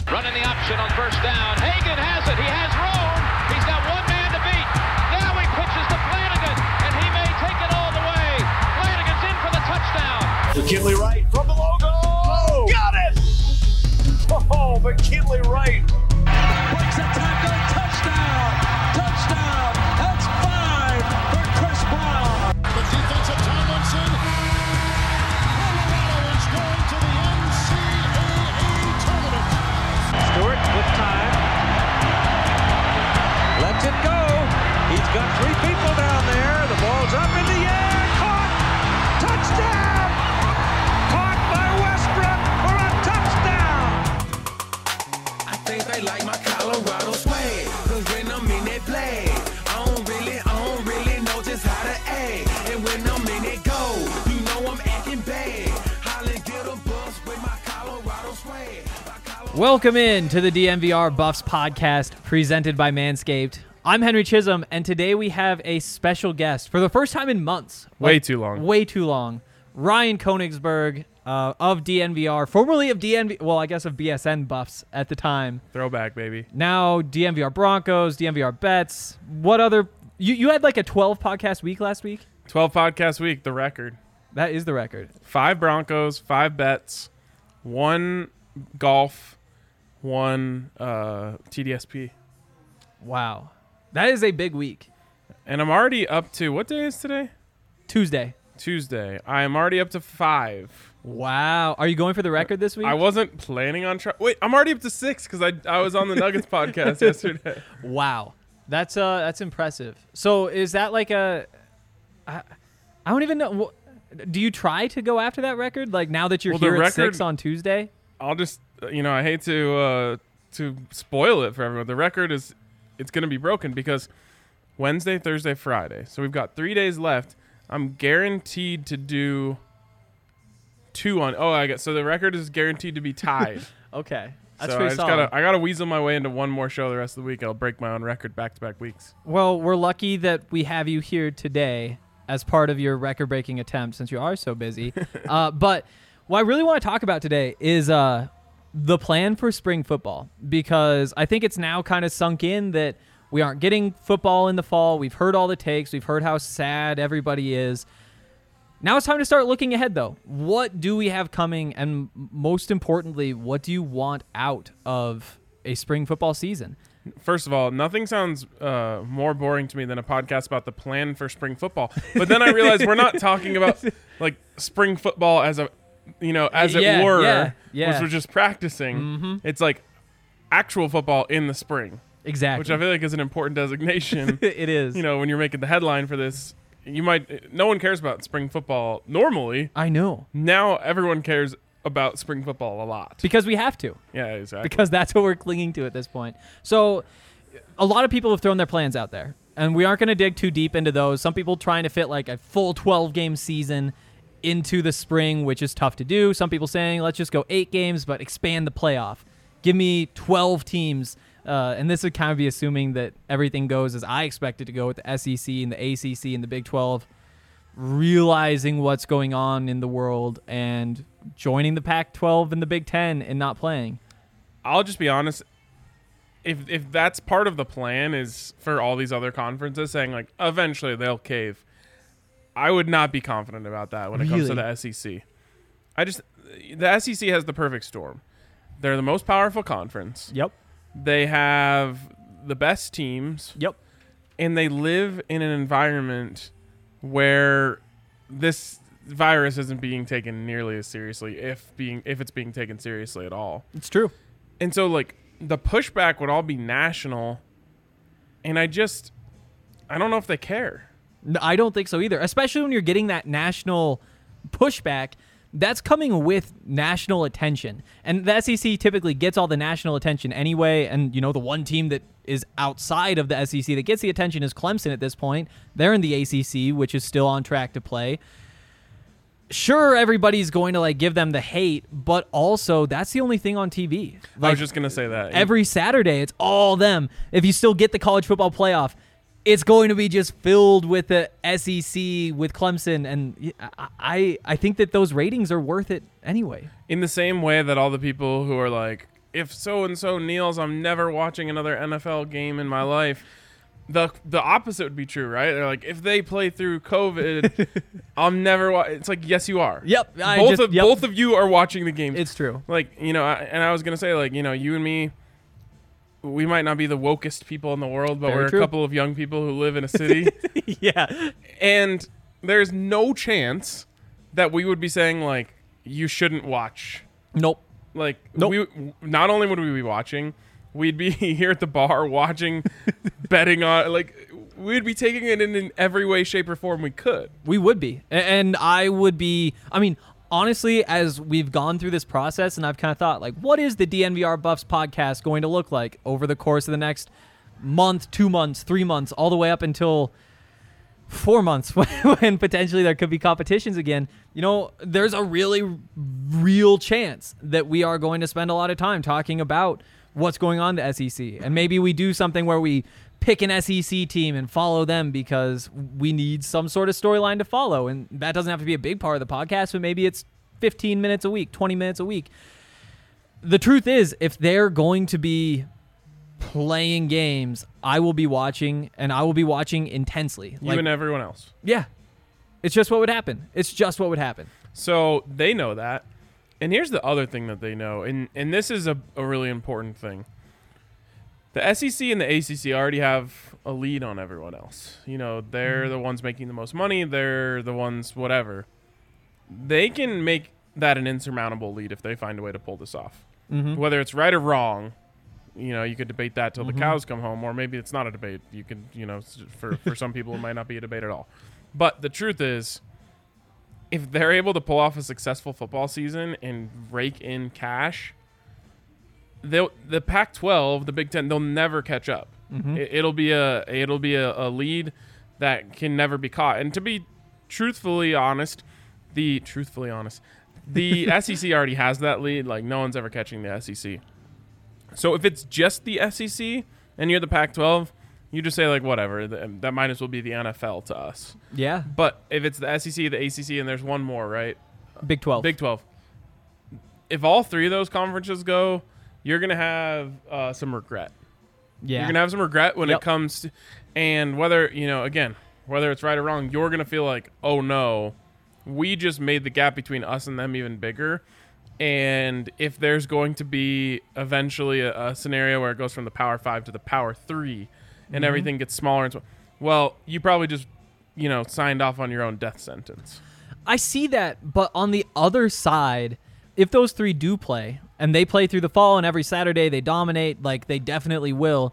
Running the option on first down. Hagan has it. He has room. He's got one man to beat. Now he pitches to Flanagan, and he may take it all the way. Flanagan's in for the touchdown. McKinley Wright from the logo. Got it! Oh, McKinley Wright. Breaks a tackle. Touchdown. Touchdown. That's 5 for Chris Brown. The defense of Tomlinson. Colorado is going to the NCAA tournament. Stewart with time. Lets it go. He's got 3 people down there. The ball's up in the air. Caught. Touchdown. Caught by Westbrook for a touchdown. I think they like my Colorado swag. Cause when I'm in that play, I don't really know just how to act. And when I'm in it go, you know I'm acting bad. Holly get a bus with my Colorado swag. Welcome in to the DNVR Buffs podcast presented by Manscaped. I'm Henry Chisholm, and today we have a special guest for the first time in months. Way too long. Way too long. Ryan Koenigsberg of DNVR, formerly of of BSN Buffs at the time. Throwback, baby. Now DNVR Broncos, DNVR Bets. What other... You had like a 12 podcast week last week? 12 podcast week, the record. That is the record. 5 Broncos, 5 bets, 1 golf, 1 TDSP. Wow. That is a big week. And I'm already up to... What day is today? Tuesday. I am already up to 5. Wow. Are you going for the record this week? I wasn't planning on trying... Wait, I'm already up to 6 because I was on the Nuggets podcast yesterday. Wow. That's impressive. So is that like a... I don't even know. Do you try to go after that record? Like now that you're here at 6 on Tuesday? I'll just... I hate to spoil it for everyone. The record is... It's going to be broken because Wednesday, Thursday, Friday. So we've got 3 days left. I'm guaranteed to do 2 on... Oh, I guess. So the record is guaranteed to be tied. Okay. That's so pretty solid. I gotta weasel my way into one more show the rest of the week. I'll break my own record back-to-back weeks. Well, we're lucky that we have you here today as part of your record-breaking attempt since you are so busy. But what I really want to talk about today is the plan for spring football, because I think it's now kind of sunk in that we aren't getting football in the fall. We've heard all the takes. We've heard how sad everybody is. Now it's time to start looking ahead, though. What do we have coming? And most importantly, what do you want out of a spring football season? First of all, nothing sounds more boring to me than a podcast about the plan for spring football. But then I realized we're not talking about like spring football as a... as it were, which was just practicing. Mm-hmm. It's like actual football in the spring. Exactly. Which I feel like is an important designation. It is. When you're making the headline for this, no one cares about spring football normally. I know. Now everyone cares about spring football a lot. Because we have to. Yeah, exactly. Because that's what we're clinging to at this point. So a lot of people have thrown their plans out there, and we aren't going to dig too deep into those. Some people trying to fit like a full 12-game season into the spring, which is tough to do. Some people saying, let's just go 8 games, but expand the playoff. Give me 12 teams. And this would kind of be assuming that everything goes as I expect it to go with the SEC and the ACC and the Big 12, realizing what's going on in the world and joining the Pac-12 and the Big 10 and not playing. I'll just be honest. If that's part of the plan is for all these other conferences saying like eventually they'll cave, I would not be confident about that when it comes to the SEC. The SEC has the perfect storm. They're the most powerful conference. Yep. They have the best teams. Yep. And they live in an environment where this virus isn't being taken nearly as seriously, if it's being taken seriously at all. It's true. And so like the pushback would all be national, and I don't know if they care. No, I don't think so either, especially when you're getting that national pushback. That's coming with national attention. And the SEC typically gets all the national attention anyway. And, the one team that is outside of the SEC that gets the attention is Clemson at this point. They're in the ACC, which is still on track to play. Sure, everybody's going to give them the hate, but also that's the only thing on TV. I was just going to say that. Every Saturday, it's all them. If you still get the college football playoff, it's going to be just filled with the SEC, with Clemson, and I think that those ratings are worth it anyway. In the same way that all the people who are like, if so and so kneels, I'm never watching another NFL game in my life. The opposite would be true, right? They're like, if they play through COVID, I'm never. It's like, yes, you are. Yep. Both of you are watching the game. It's true. Like, I was gonna say, like, you and me, we might not be the wokest people in the world, but we're a couple of young people who live in a city. Yeah. And there's no chance that we would be saying, like, you shouldn't watch. Nope. Like, not only would we be watching, we'd be here at the bar watching, betting on, like, we'd be taking it in every way, shape, or form we could. We would be. And I would be, I mean, honestly, as we've gone through this process, and I've kind of thought, like, what is the DNVR Buffs podcast going to look like over the course of the next month, 2 months, 3 months, all the way up until 4 months when potentially there could be competitions again? There's a really real chance that we are going to spend a lot of time talking about what's going on in the SEC. And maybe we do something where we pick an SEC team and follow them because we need some sort of storyline to follow. And that doesn't have to be a big part of the podcast, but maybe it's 15 minutes a week, 20 minutes a week. The truth is, if they're going to be playing games, I will be watching, and I will be watching intensely. You and everyone else. Yeah. It's just what would happen. It's just what would happen. So they know that. And here's the other thing that they know, and this is a really important thing. The SEC and the ACC already have a lead on everyone else. They're the ones making the most money. They're the ones whatever. They can make that an insurmountable lead if they find a way to pull this off. Mm-hmm. Whether it's right or wrong, you could debate that till the cows come home, or maybe it's not a debate. You could, for some people, it might not be a debate at all. But the truth is, if they're able to pull off a successful football season and rake in cash, the Pac-12, the Big Ten, they'll never catch up. Mm-hmm. It'll be a lead that can never be caught. And to be truthfully honest, the SEC already has that lead. Like, no one's ever catching the SEC. So if it's just the SEC and you're the Pac-12, you just say, like, whatever. That might as well be the NFL to us. Yeah. But if it's the SEC, the ACC, and there's one more, right? Big 12. Big 12. If all three of those conferences go, you're going to have some regret. Yeah. You're going to have some regret when it comes to, and whether it's right or wrong, you're going to feel like, oh, no, we just made the gap between us and them even bigger. And if there's going to be eventually a scenario where it goes from the Power 5 to the Power 3 and everything gets smaller and well, you probably just, signed off on your own death sentence. I see that, but on the other side, if those three do play, and they play through the fall and every Saturday they dominate, like they definitely will,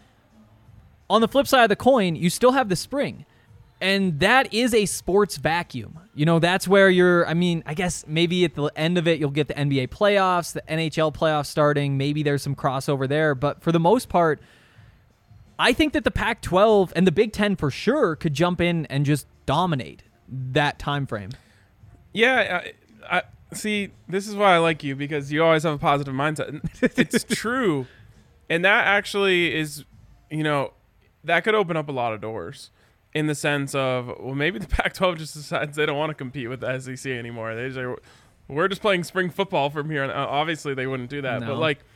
on the flip side of the coin, you still have the spring. And that is a sports vacuum. That's where I guess maybe at the end of it, you'll get the NBA playoffs, the NHL playoffs starting. Maybe there's some crossover there. But for the most part, I think that the Pac-12 and the Big Ten for sure could jump in and just dominate that time frame. Yeah, I see, this is why I like you, because you always have a positive mindset. It's true. And that actually is, that could open up a lot of doors. In the sense of, well, maybe the Pac-12 just decides they don't want to compete with the SEC anymore. They say, we're just playing spring football from here on. Obviously, they wouldn't do that. No. But, like,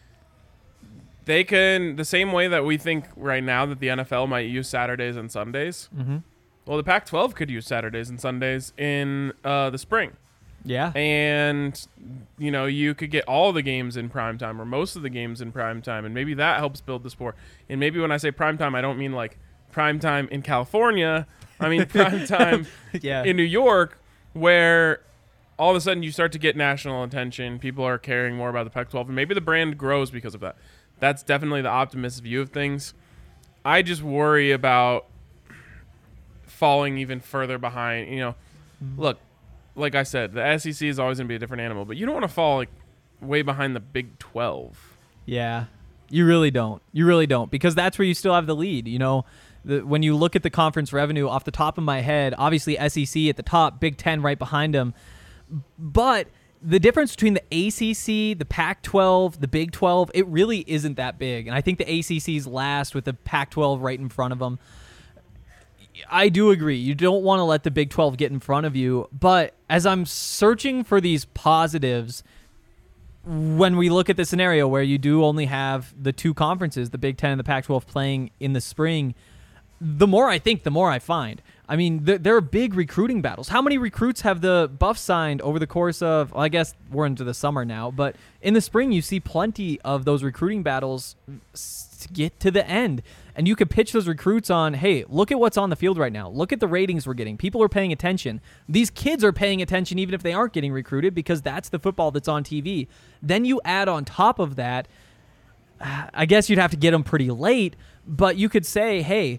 they can, the same way that we think right now that the NFL might use Saturdays and Sundays, well, the Pac-12 could use Saturdays and Sundays in the spring. Yeah. And, you could get all the games in primetime or most of the games in primetime, and maybe that helps build the sport. And maybe when I say primetime, I don't mean, like, prime time in California. I mean prime time in New York, where all of a sudden you start to get national attention. People are caring more about the Pac-12, and maybe the brand grows because of that. That's definitely the optimistic view of things. I just worry about falling even further behind. Look, like I said, the SEC is always going to be a different animal, but you don't want to fall like way behind the Big 12. Yeah, you really don't. You really don't, because that's where you still have the lead, when you look at the conference revenue off the top of my head, obviously SEC at the top, Big Ten right behind them. But the difference between the ACC, the Pac-12, the Big 12, it really isn't that big. And I think the ACC's last with the Pac-12 right in front of them. I do agree. You don't want to let the Big 12 get in front of you. But as I'm searching for these positives, when we look at the scenario where you do only have the two conferences, the Big Ten and the Pac-12, playing in the spring, the more I think, the more I find. I mean, there are big recruiting battles. How many recruits have the Buffs signed over the course of, well, I guess we're into the summer now, but in the spring you see plenty of those recruiting battles to get to the end. And you could pitch those recruits on, hey, look at what's on the field right now. Look at the ratings we're getting. People are paying attention. These kids are paying attention even if they aren't getting recruited because that's the football that's on TV. Then you add on top of that, I guess you'd have to get them pretty late, but you could say, hey,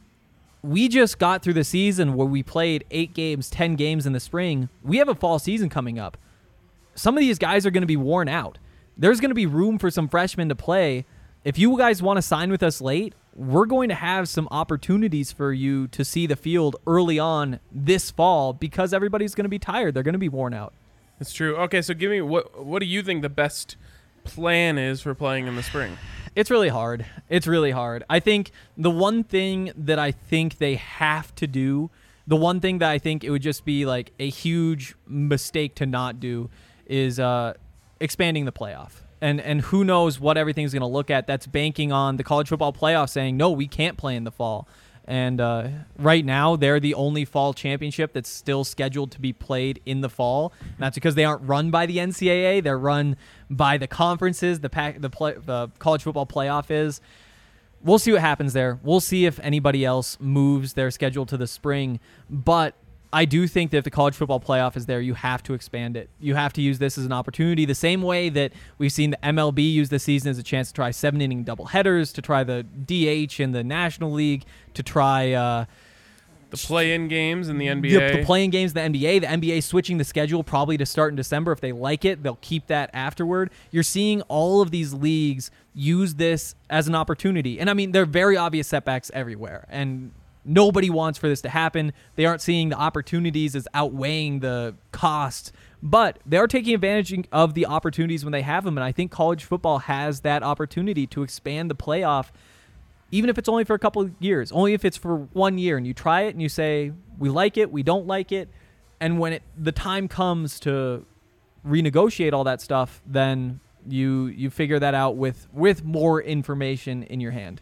we just got through the season where we played 8 games, 10 games in the spring. We have a fall season coming up. Some of these guys are going to be worn out. There's going to be room for some freshmen to play. If you guys want to sign with us late, we're going to have some opportunities for you to see the field early on this fall because everybody's going to be tired. They're going to be worn out. It's true. Okay, so give me what do you think the best plan is for playing in the spring? It's really hard. It's really hard. I think the one thing that I think they have to do, the one thing that I think it would just be like a huge mistake to not do is expanding the playoff. And who knows what everything's going to look at. That's banking on the college football playoff saying, no, we can't play in the fall. And right now, they're the only fall championship that's still scheduled to be played in the fall. And that's because they aren't run by the NCAA. They're run by the conferences. The college football playoff is. We'll see what happens there. We'll see if anybody else moves their schedule to the spring. But I do think that if the college football playoff is there, you have to expand it. You have to use this as an opportunity, the same way that we've seen the MLB use this season as a chance to try 7-inning doubleheaders, to try the DH in the National League, to try the play-in games in the NBA. The play-in games in the NBA. The NBA switching the schedule probably to start in December. If they like it, they'll keep that afterward. You're seeing all of these leagues use this as an opportunity. And, I mean, there are very obvious setbacks everywhere. And nobody wants for this to happen. They aren't seeing the opportunities as outweighing the cost, but they are taking advantage of the opportunities when they have them. And I think college football has that opportunity to expand the playoff, even if it's only for a couple of years, only if it's for 1 year, and you try it and you say, we like it, we don't like it. And when the time comes to renegotiate all that stuff, then you figure that out with more information in your hand.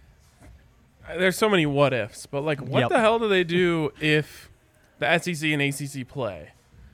There's so many what ifs, but like, what the hell do they do if the SEC and ACC play?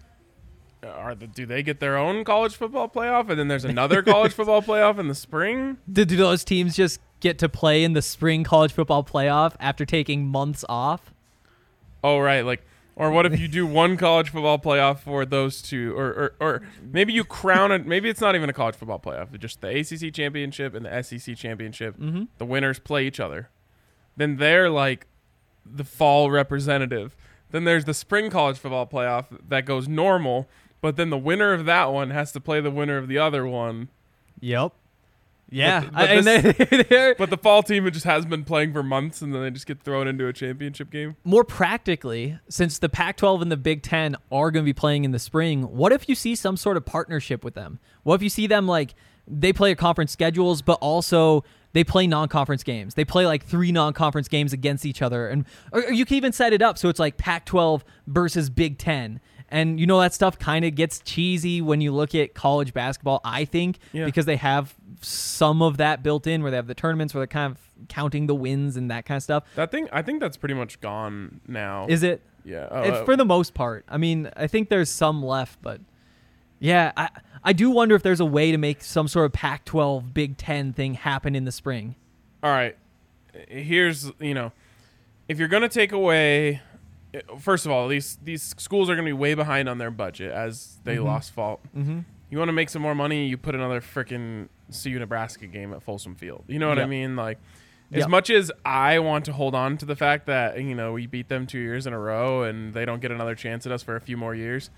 Do they get their own college football playoff, and then there's another college football playoff in the spring? Do those teams just get to play in the spring college football playoff after taking months off? Oh, right. Like, or what if you do one college football playoff for those two, or maybe you crown it. Maybe it's not even a college football playoff, it's just the ACC championship and the SEC championship. Mm-hmm. The winners play each other. Then they're like the fall representative. Then there's the spring college football playoff that goes normal, but then the winner of that one has to play the winner of the other one. Yep. Yeah. But the fall team just hasn't been playing for months, and then they just get thrown into a championship game. More practically, since the Pac-12 and the Big Ten are going to be playing in the spring, what if you see some sort of partnership with them? What if you see them like they play conference schedules, but also they play non-conference games. They play like 3 non-conference games against each other. Or you can even set it up so it's like Pac-12 versus Big Ten. And, that stuff kind of gets cheesy when you look at college basketball, I think, because they have some of that built in where they have the tournaments where they're kind of counting the wins and that kind of stuff. I think that's pretty much gone now. Is it? Yeah. It's for the most part. I mean, I think there's some left, but yeah, I do wonder if there's a way to make some sort of Pac-12 Big Ten thing happen in the spring. All right. Here's, if you're going to take away, first of all, these schools are going to be way behind on their budget as they lost fall. Mm-hmm. You want to make some more money, you put another freaking CU Nebraska game at Folsom Field. You know what I mean? Like, as much as I want to hold on to the fact that, we beat them 2 years in a row and they don't get another chance at us for a few more years,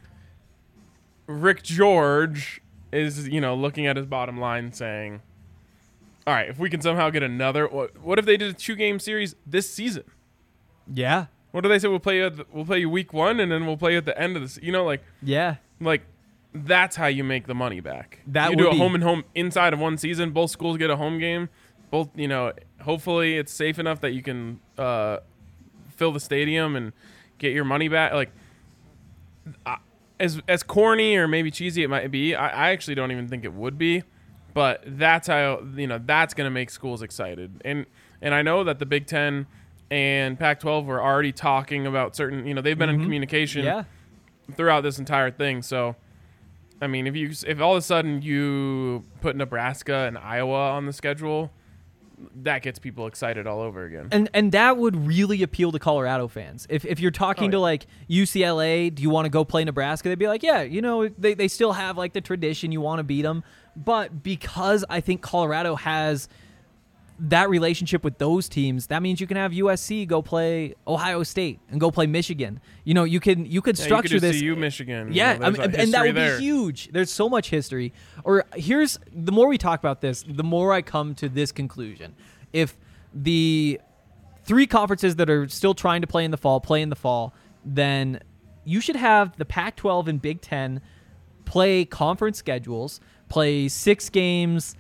Rick George is, looking at his bottom line saying, all right, if we can somehow get another, what if they did a 2-game series this season? Yeah. What do they say? We'll play you week 1 and then we'll play you at the end of the season. Like that's how you make the money back. You do a home and home inside of one season. Both schools get a home game. Both, hopefully it's safe enough that you can fill the stadium and get your money back. Like, as corny or maybe cheesy it might be, I actually don't even think it would be. But that's how, that's going to make schools excited. And I know that the Big Ten and Pac-12 were already talking about certain, they've been in communication throughout this entire thing. So, I mean, if all of a sudden you put Nebraska and Iowa on the schedule, that gets people excited all over again. And that would really appeal to Colorado fans. If you're talking to like UCLA, do you want to go play Nebraska? They'd be like, yeah, they still have like the tradition. You want to beat them. But because I think Colorado has that relationship with those teams, that means you can have USC go play Ohio State and go play Michigan. You could structure you could this. CU Michigan. Yeah, and that would be huge. There's so much history. Or the more we talk about this, the more I come to this conclusion. If the 3 conferences that are still trying to play in the fall, then you should have the Pac-12 and Big Ten play conference schedules, play 6 games,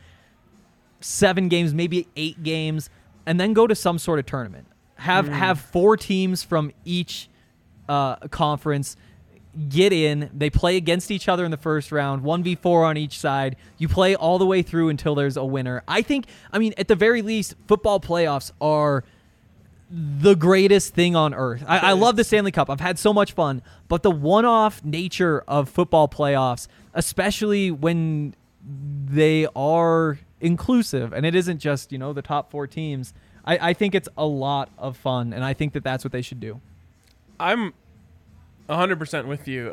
7 games, maybe 8 games, and then go to some sort of tournament. Have 4 teams from each conference get in. They play against each other in the first round, 1v4 on each side. You play all the way through until there's a winner. I mean, at the very least, football playoffs are the greatest thing on earth. I love the Stanley Cup. I've had so much fun. But the one-off nature of football playoffs, especially when they are inclusive and it isn't just, the top 4 teams, I think it's a lot of fun, and I think that that's what they should do. I'm 100% with you.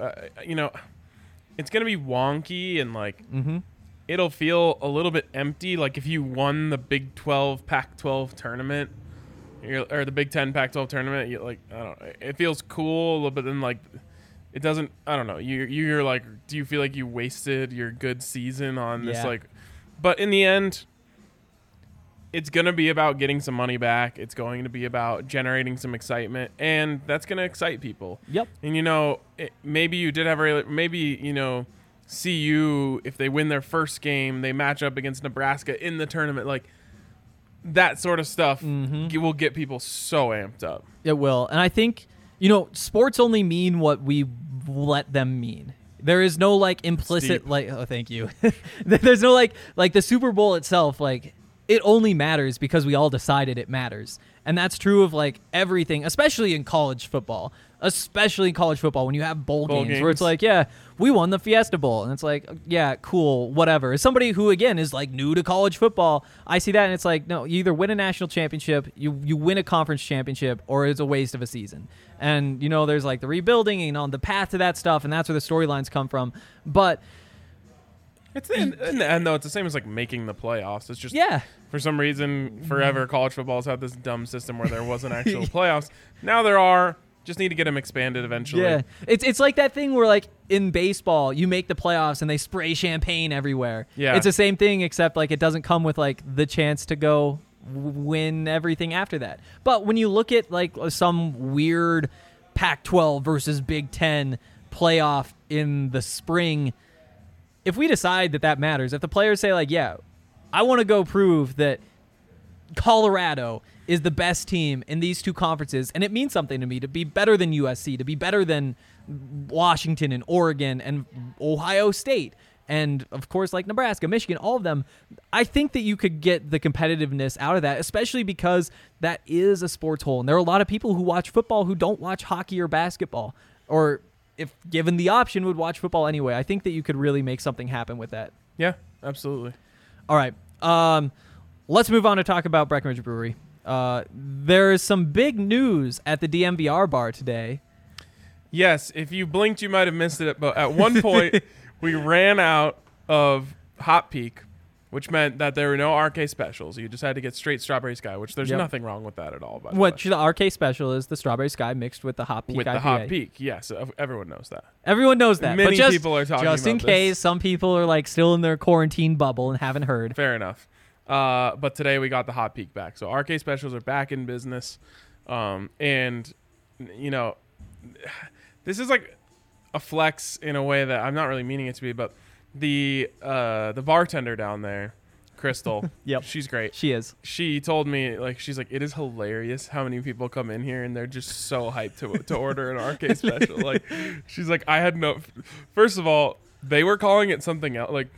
It's going to be wonky and like it'll feel a little bit empty. Like if you won the Big 12 Pac-12 tournament or the Big 10 Pac-12 tournament, I don't know, it feels cool, but then like it doesn't. I don't know. You're like, do you feel like you wasted your good season on this? Like, but in the end, it's going to be about getting some money back. It's going to be about generating some excitement, and that's going to excite people. Yep. And, maybe you did have CU, if they win their first game, they match up against Nebraska in the tournament. Like, that sort of stuff will get people so amped up. It will. And I think, sports only mean what we let them mean. There is no, like, implicit, thank you. There's no, like the Super Bowl itself, like, it only matters because we all decided it matters. And that's true of like everything, especially in college football. When you have bowl games where it's like, yeah, we won the Fiesta Bowl. And it's like, yeah, cool, whatever. As somebody who, again, is like new to college football, I see that and it's like, no, you either win a national championship, you win a conference championship, or it's a waste of a season. And, there's like the rebuilding and on the path to that stuff, and that's where the storylines come from. But it's in the end, though, it's the same as like making the playoffs. It's just for some reason, forever college football's had this dumb system where there wasn't actual playoffs. Now there are. Just need to get them expanded eventually. Yeah, it's like that thing where like in baseball you make the playoffs and they spray champagne everywhere. Yeah, it's the same thing except like it doesn't come with like the chance to go win everything after that. But when you look at like some weird Pac-12 versus Big Ten playoff in the spring, if we decide that matters, if the players say like, yeah, I want to go prove that Colorado is the best team in these 2 conferences, and it means something to me to be better than USC, to be better than Washington and Oregon and Ohio State, and of course like Nebraska, Michigan, all of them. I think that you could get the competitiveness out of that, especially because that is a sports hole, and there are a lot of people who watch football who don't watch hockey or basketball, or if given the option would watch football anyway. I think that you could really make something happen with that. Yeah, absolutely. All right. Let's move on to talk about Breckenridge Brewery. There is some big news at the DMVR bar today. Yes, if you blinked, you might have missed it. But at one point, we ran out of Hot Peak, which meant that there were no RK specials. You just had to get straight Strawberry Sky, which there's nothing wrong with that at all. By the way. The RK special is the Strawberry Sky mixed with the Hot Peak with IPA. The Hot Peak, yes. Everyone knows that. Everyone knows that. Many but people are talking just about in case some people are like still in their quarantine bubble and haven't heard. Fair enough. But today we got the Hot Peak back. So RK specials are back in business. And, this is like a flex in a way that I'm not really meaning it to be, but the bartender down there Crystal. Yep. She's great. She is. She told me, like, she's like, it is hilarious how many people come in here and they're just so hyped to order an RK special. Like, she's like, I had no. First of all, they were calling it something else. Like,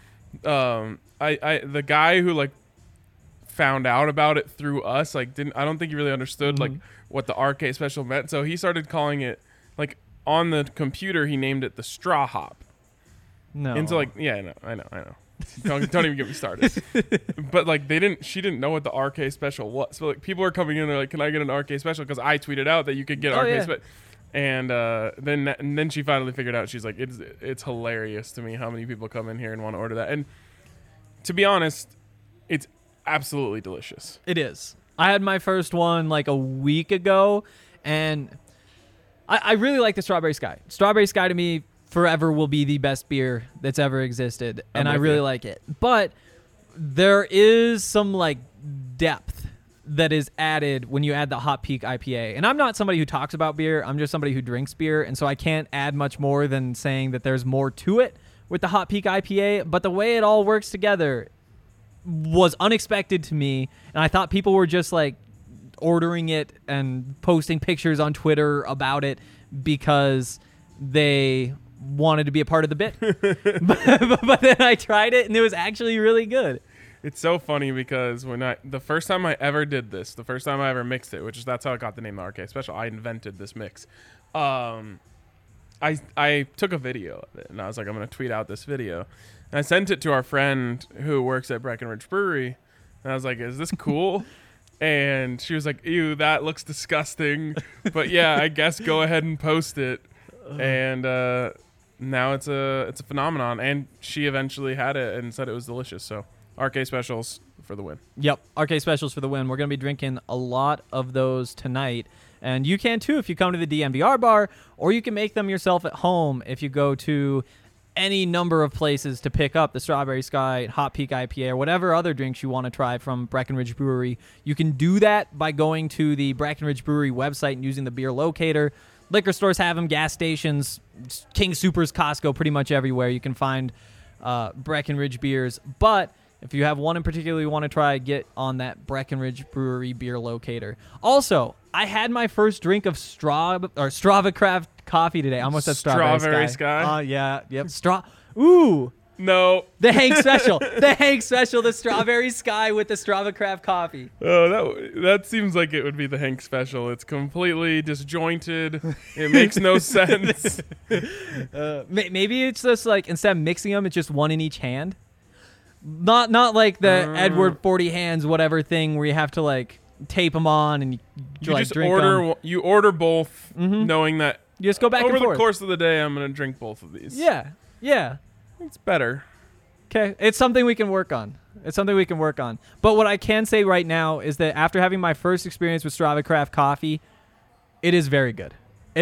the guy who like found out about it through us, like, I don't think he really understood like what the RK special meant. So he started calling it, like, on the computer, he named it the Straw Hop. No. And so, like, yeah, I know. Don't even get me started. But like she didn't know what the RK special was. So like people are coming in, they're like, "Can I get an RK special?" Because I tweeted out that you could get RK special. And then she finally figured out. She's like, "It's hilarious to me how many people come in here and want to order that." And to be honest, it's absolutely delicious. It is. I had my first one like a week ago, and I really like the Strawberry Sky. Strawberry Sky to me forever will be the best beer that's ever existed, and I really like it. But there is some like depth that is added when you add the Hot Peak IPA. And I'm not somebody who talks about beer. I'm just somebody who drinks beer, and so I can't add much more than saying that there's more to it with the Hot Peak IPA. But the way it all works together was unexpected to me, and I thought people were just like ordering it and posting pictures on Twitter about it because they wanted to be a part of the bit. but then I tried it, and it was actually really good. It's so funny because the first time I ever did this, the first time I ever mixed it, which is that's how I got the name RK Special. I invented this mix. I took a video of it, and I was like, I'm going to tweet out this video. And I sent it to our friend who works at Breckenridge Brewery, and I was like, is this cool? And she was like, ew, that looks disgusting. But yeah, I guess go ahead and post it. And now it's a phenomenon. And she eventually had it and said it was delicious. So RK Specials for the win. Yep, RK Specials for the win. We're going to be drinking a lot of those tonight. And you can too if you come to the DNVR bar, or you can make them yourself at home if you go to any number of places to pick up the Strawberry Sky, Hot Peak IPA, or whatever other drinks you want to try from Breckenridge Brewery. You can do that by going to the Breckenridge Brewery website and using the beer locator. Liquor stores have them, gas stations, King Soopers, Costco, pretty much everywhere. You can find Breckenridge beers. But if you have one in particular you want to try, get on that Breckenridge Brewery beer locator. Also, I had my first drink of Strava Craft coffee today. I almost said Strawberry Sky. Yeah, yep. Ooh. No. The Hank Special. The Hank Special, the Strawberry Sky with the Strava Craft coffy. Oh, that seems like it would be the Hank Special. It's completely disjointed. It makes no sense. Maybe it's just like instead of mixing them, it's just one in each hand. Not like the Edward 40 hands whatever thing where you have to like tape them on and you like just drink order them. You order both, knowing that You just go back over and forth. the course of the day I'm going to drink both of these. Yeah. It's better. Okay, it's something we can work on. But what I can say right now is that after having my first experience with Strava Craft coffee, it is very good.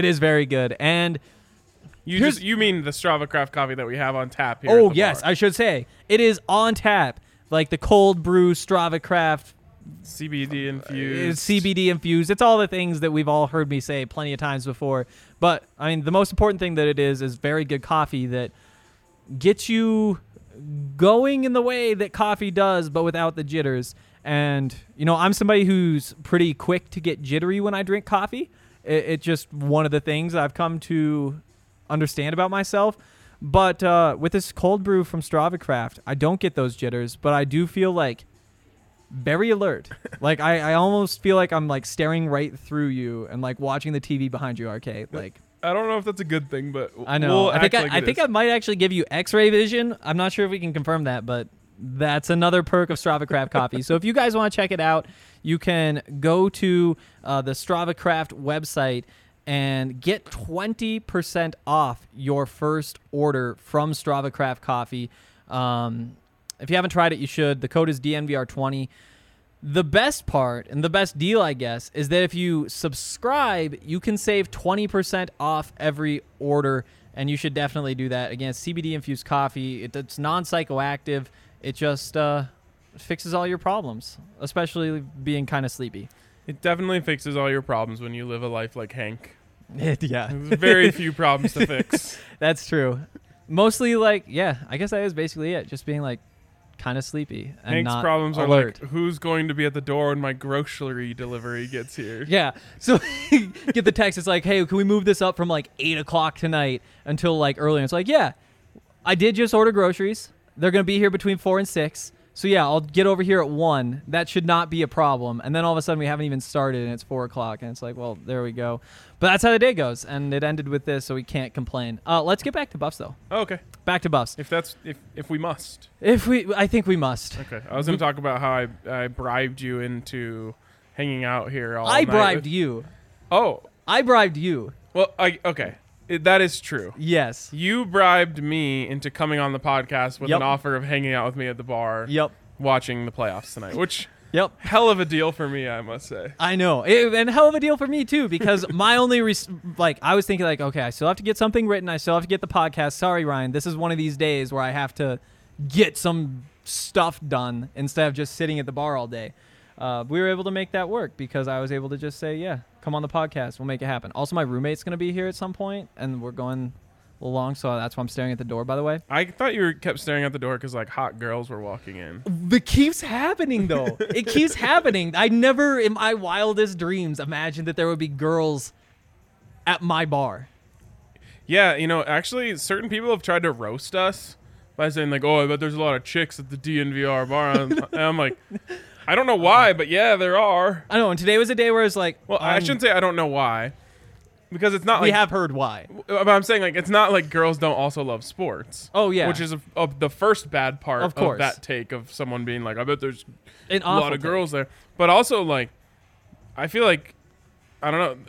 And you mean the Strava Craft coffee that we have on tap here? Oh, at the yes, bar. I should say. It is on tap, like the cold brew Strava Craft. CBD infused. CBD infused. It's all the things that we've all heard me say plenty of times before. But, I mean, the most important thing that it is very good coffee that gets you going in the way that coffee does, but without the jitters. And, you know, I'm somebody who's pretty quick to get jittery when I drink coffee. It's just one of the things I've come to understand about myself. But with this cold brew from Strava Craft, I don't get those jitters, but I do feel like very alert. Like I almost feel like I'm like staring right through you and like watching the TV behind you, RK. Like I don't know if that's a good thing, but I know. We'll I think I might actually give you X-ray vision. I'm not sure if we can confirm that, but that's another perk of Strava Craft coffee. So if you guys want to check it out, you can go to the Strava Craft website and get 20% off your first order from Strava Craft coffee. If you haven't tried it, you should. The code is DNVR20. The best part and the best deal, I guess, is that if you subscribe, you can save 20% off every order, and you should definitely do that. Again, it's CBD-infused coffee. It's non-psychoactive. It just fixes all your problems, especially being kind of sleepy. It definitely fixes all your problems when you live a life like Hank. Yeah. There's very few problems to fix. That's true. Mostly, like, yeah, I guess that is basically it. Just being, like, kind of sleepy and Hank's not problems are alert. like, who's going to be at the door when my grocery delivery gets here? Yeah. So get the text. It's like, hey, can we move this up from like 8 o'clock tonight until like early? And it's like, yeah, I did just order groceries. They're going to be here between 4 and 6. So yeah, I'll get over here at 1. That should not be a problem. And then all of a sudden we haven't even started and it's 4 o'clock. And it's like, well, there we go. But that's how the day goes. And it ended with this, so we can't complain. Let's get back to Buffs though. Oh, okay. Back to Buffs. If we must. I think we must. Okay. I was going to talk about how I bribed you into hanging out here all night. I bribed you. Oh. I bribed you. Well, okay. That is true. Yes. You bribed me into coming on the podcast with Yep. an offer of hanging out with me at the bar. Yep. Watching the playoffs tonight, which Yep. hell of a deal for me, I must say. I know. And hell of a deal for me, too, because my only, I was thinking, like, okay, I still have to get something written. I still have to get the podcast. Sorry, Ryan. This is one of these days where I have to get some stuff done instead of just sitting at the bar all day. We were able to make that work because I was able to just say, yeah, come on the podcast. We'll make it happen. Also, my roommate's going to be here at some point, and we're going a little long, so that's why I'm staring at the door, by the way. I thought you kept staring at the door because like hot girls were walking in. It keeps happening, though. It keeps happening. I never, in my wildest dreams, imagined that there would be girls at my bar. Yeah, actually, certain people have tried to roast us by saying like, "Oh, I bet there's a lot of chicks at the DNVR bar." And I'm like, I don't know why, but yeah, there are. I know, and today was a day where it's like, Well, I shouldn't say I don't know why, because it's not we like have heard why. But I'm saying like it's not like girls don't also love sports. Oh yeah, Which is the first bad part Of course. that take of someone being like, I bet there's An a lot awful of girls there. But also like, I feel like, I don't know,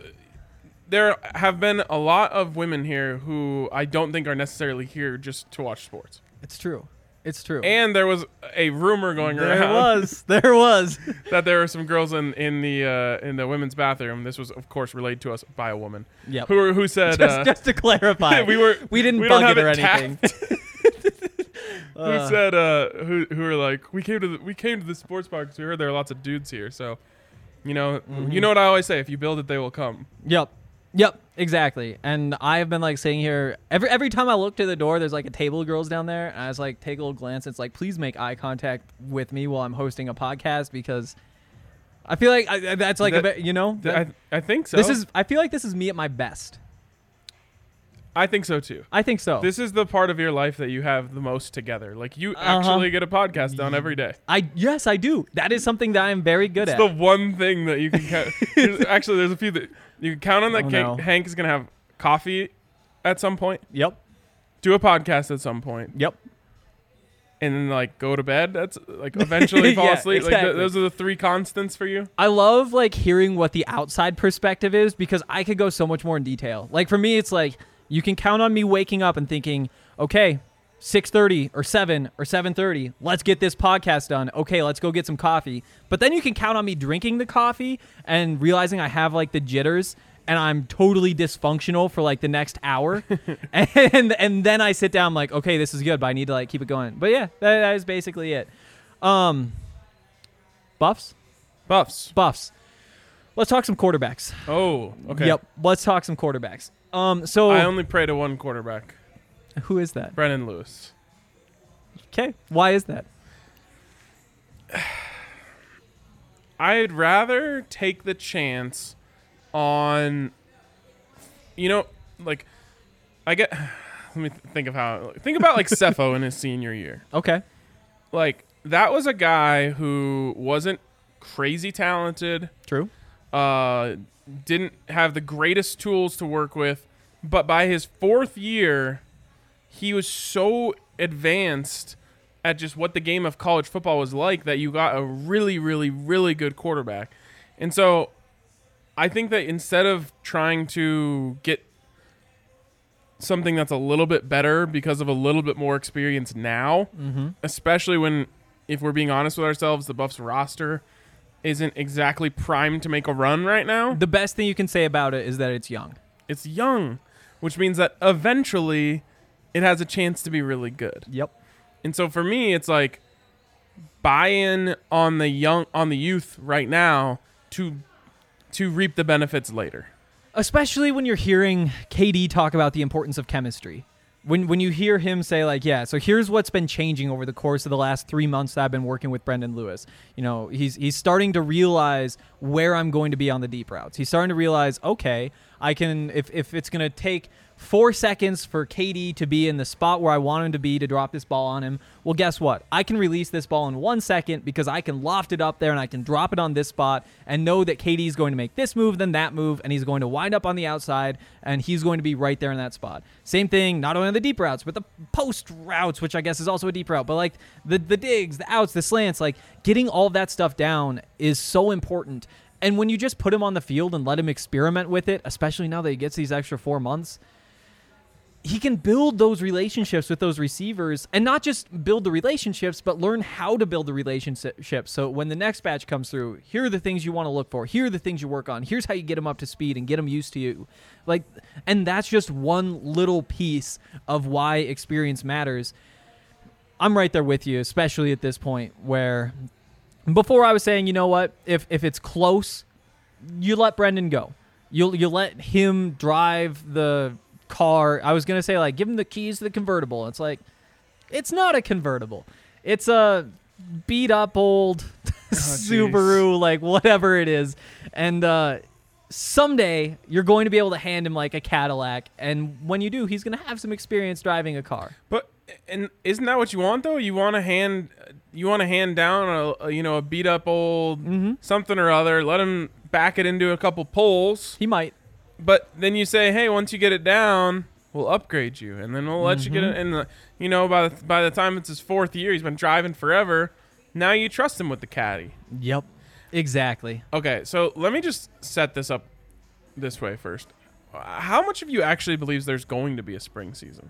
there have been a lot of women here who I don't think are necessarily here just to watch sports. It's true. It's true. And there was a rumor going there around was that there were some girls in the women's bathroom. This was, of course, relayed to us by a woman. Yep. Who said just to clarify, we didn't don't bug have it or it anything. who said who were like, we came to the sports bar because we heard there are lots of dudes here. So, you know what I always say: if you build it, they will come. Yep, exactly. And I've been like sitting here every time I look to the door, there's like a table of girls down there, and I just like take a little glance. It's like, please make eye contact with me while I'm hosting a podcast because I feel like that's like I think so. I feel like this is me at my best. I think so too. I think so. This is the part of your life that you have the most together. Like you actually get a podcast done every day. Yes, I do. That is something that I'm very good at. It's the one thing that you can count. Actually, there's a few that you can count on that no. Hank is going to have coffee at some point. Yep. Do a podcast at some point. Yep. And then like go to bed. That's like eventually fall Yeah, asleep. exactly. Like those are the 3 constants for you. I love like hearing what the outside perspective is because I could go so much more in detail. Like for me, it's like you can count on me waking up and thinking, okay, 6:30 or 7 or 7:30, let's get this podcast done. Okay, let's go get some coffee. But then you can count on me drinking the coffee and realizing I have like the jitters and I'm totally dysfunctional for like the next hour. and then I sit down I'm like, okay, this is good, but I need to like keep it going. But yeah, that is basically it. Buffs. Let's talk some quarterbacks. Oh, okay. Yep. Let's talk some quarterbacks. So I only pray to one quarterback, who is that? Brennan Lewis. Okay. Why is that? I'd rather take the chance on, like, let me think about like Cepho in his senior year. Okay. Like, that was a guy who wasn't crazy talented. True. Didn't have the greatest tools to work with, but by his 4th year, he was so advanced at just what the game of college football was like that you got a really, really, really good quarterback. And so I think that instead of trying to get something that's a little bit better because of a little bit more experience now, especially when, if we're being honest with ourselves, the Buffs roster isn't exactly primed to make a run right now. The best thing you can say about it is that it's young. It's young, which means that eventually it has a chance to be really good. Yep. And so for me, it's like buy in on the youth right now to reap the benefits later. Especially when you're hearing KD talk about the importance of chemistry. when you hear him say like, yeah, so here's what's been changing over the course of the last 3 months that I've been working with Brendan Lewis. You know, he's starting to realize where I'm going to be on the deep routes. He's starting to realize, okay, I can, if it's going to take 4 seconds for KD to be in the spot where I want him to be to drop this ball on him, well, guess what? I can release this ball in 1 second because I can loft it up there and I can drop it on this spot and know that KD is going to make this move, then that move, and he's going to wind up on the outside and he's going to be right there in that spot. Same thing, not only on the deep routes, but the post routes, which I guess is also a deep route, but like the digs, the outs, the slants, like getting all of that stuff down is so important. And when you just put him on the field and let him experiment with it, especially now that he gets these extra 4 months, he can build those relationships with those receivers and not just build the relationships, but learn how to build the relationships. So when the next batch comes through, here are the things you want to look for. Here are the things you work on. Here's how you get them up to speed and get them used to you. Like, and that's just one little piece of why experience matters. I'm right there with you, especially at this point where before I was saying, you know what, if it's close, you let Brendan go. You let him drive the car. I was going to say, like, give him the keys to the convertible. It's like, it's not a convertible. It's a beat up old Subaru, like whatever it is. And someday you're going to be able to hand him like a Cadillac. And when you do, he's going to have some experience driving a car. But and isn't that what you want though? You want to hand down a beat up old something or other. Let him back it into a couple poles. He might. But then you say, hey, once you get it down, we'll upgrade you, and then we'll let you get it. And by the time it's his 4th year, he's been driving forever. Now you trust him with the caddy. Yep, exactly. Okay, so let me just set this up this way first. How much of you actually believes there's going to be a spring season?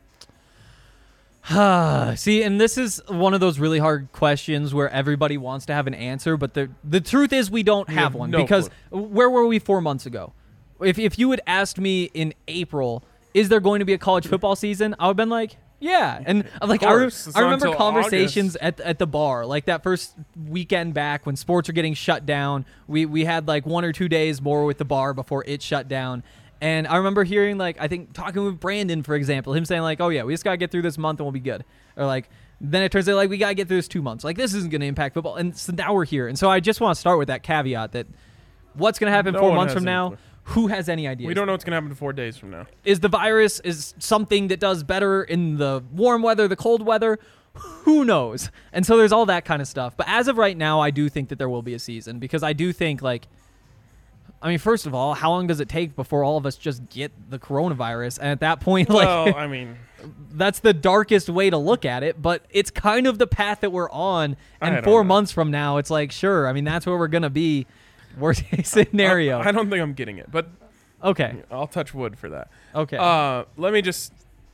See, and this is one of those really hard questions where everybody wants to have an answer, but the truth is we don't have one. Because where were we 4 months ago? If you had asked me in April, is there going to be a college football season? I would have been like, yeah. And like I remember conversations at the bar, like that first weekend back when sports are getting shut down. We had like 1 or 2 days more with the bar before it shut down. And I remember hearing, like, I think talking with Brandon, for example, him saying like, oh yeah, we just got to get through this month and we'll be good. Or like, then it turns out like we got to get through this 2 months. Like this isn't going to impact football. And so now we're here. And so I just want to start with that caveat that what's going to happen 4 months from now? Who has any idea? We don't know what's going to happen 4 days from now. Is the virus is something that does better in the warm weather, the cold weather? Who knows? And so there's all that kind of stuff. But as of right now, I do think that there will be a season because I do think, like, I mean, first of all, how long does it take before all of us just get the coronavirus? And at that point, like, well, I mean, that's the darkest way to look at it, but it's kind of the path that we're on. And 4 months from now, it's like, sure, I mean, that's where we're going to be. Worst case scenario. I don't think I'm getting it, but okay. I'll touch wood for that. Okay. Let me just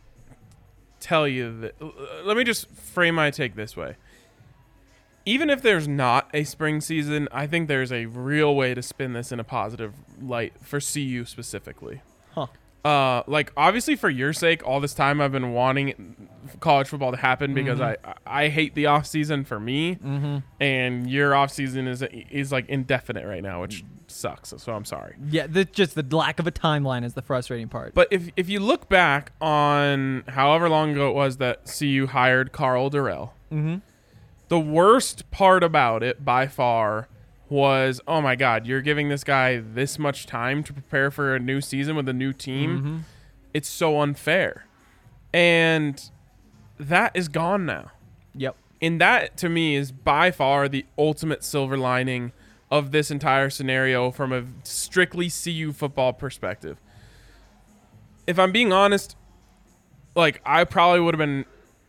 tell you that. Let me just frame my take this way. Even if there's not a spring season, I think there's a real way to spin this in a positive light for CU specifically. Huh. Like obviously for your sake, all this time I've been wanting college football to happen because I hate the off season for me, and your off season is like indefinite right now, which sucks. So I'm sorry. Yeah, just the lack of a timeline is the frustrating part. But if you look back on however long ago it was that CU hired Carl Durrell, the worst part about it by far was, oh my God, you're giving this guy this much time to prepare for a new season with a new team. It's so unfair. And that is gone now. Yep. And that, to me, is by far the ultimate silver lining of this entire scenario from a strictly CU football perspective. If I'm being honest, like, I probably would have been